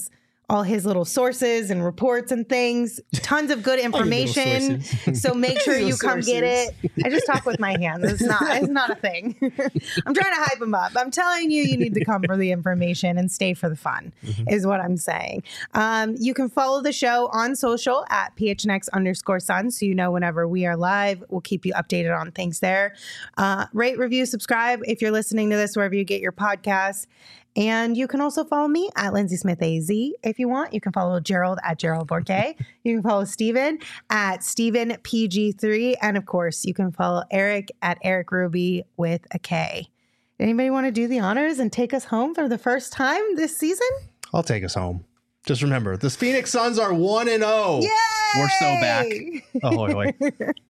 all his little sources and reports and things. Tons of good information. So make sure you come get it. I just talk with my hands. It's not, it's not a thing. I'm trying to hype him up. I'm telling you, you need to come for the information and stay for the fun, mm-hmm. is what I'm saying. Um, you can follow the show on social at P H N X underscore Suns, so you know whenever we are live. We'll keep you updated on things there. Uh, rate, review, subscribe if you're listening to this wherever you get your podcasts. And you can also follow me at Lindsay Smith A Z if you want. You can follow Gerald at Gerald Bourquet. You can follow Steven at Steven P G three. And of course, you can follow Eric at Eric Ruby with a K. Anybody want to do the honors and take us home for the first time this season? I'll take us home. Just remember, the Phoenix Suns are one and oh. Yay! We're so back. Ahoy, hoy.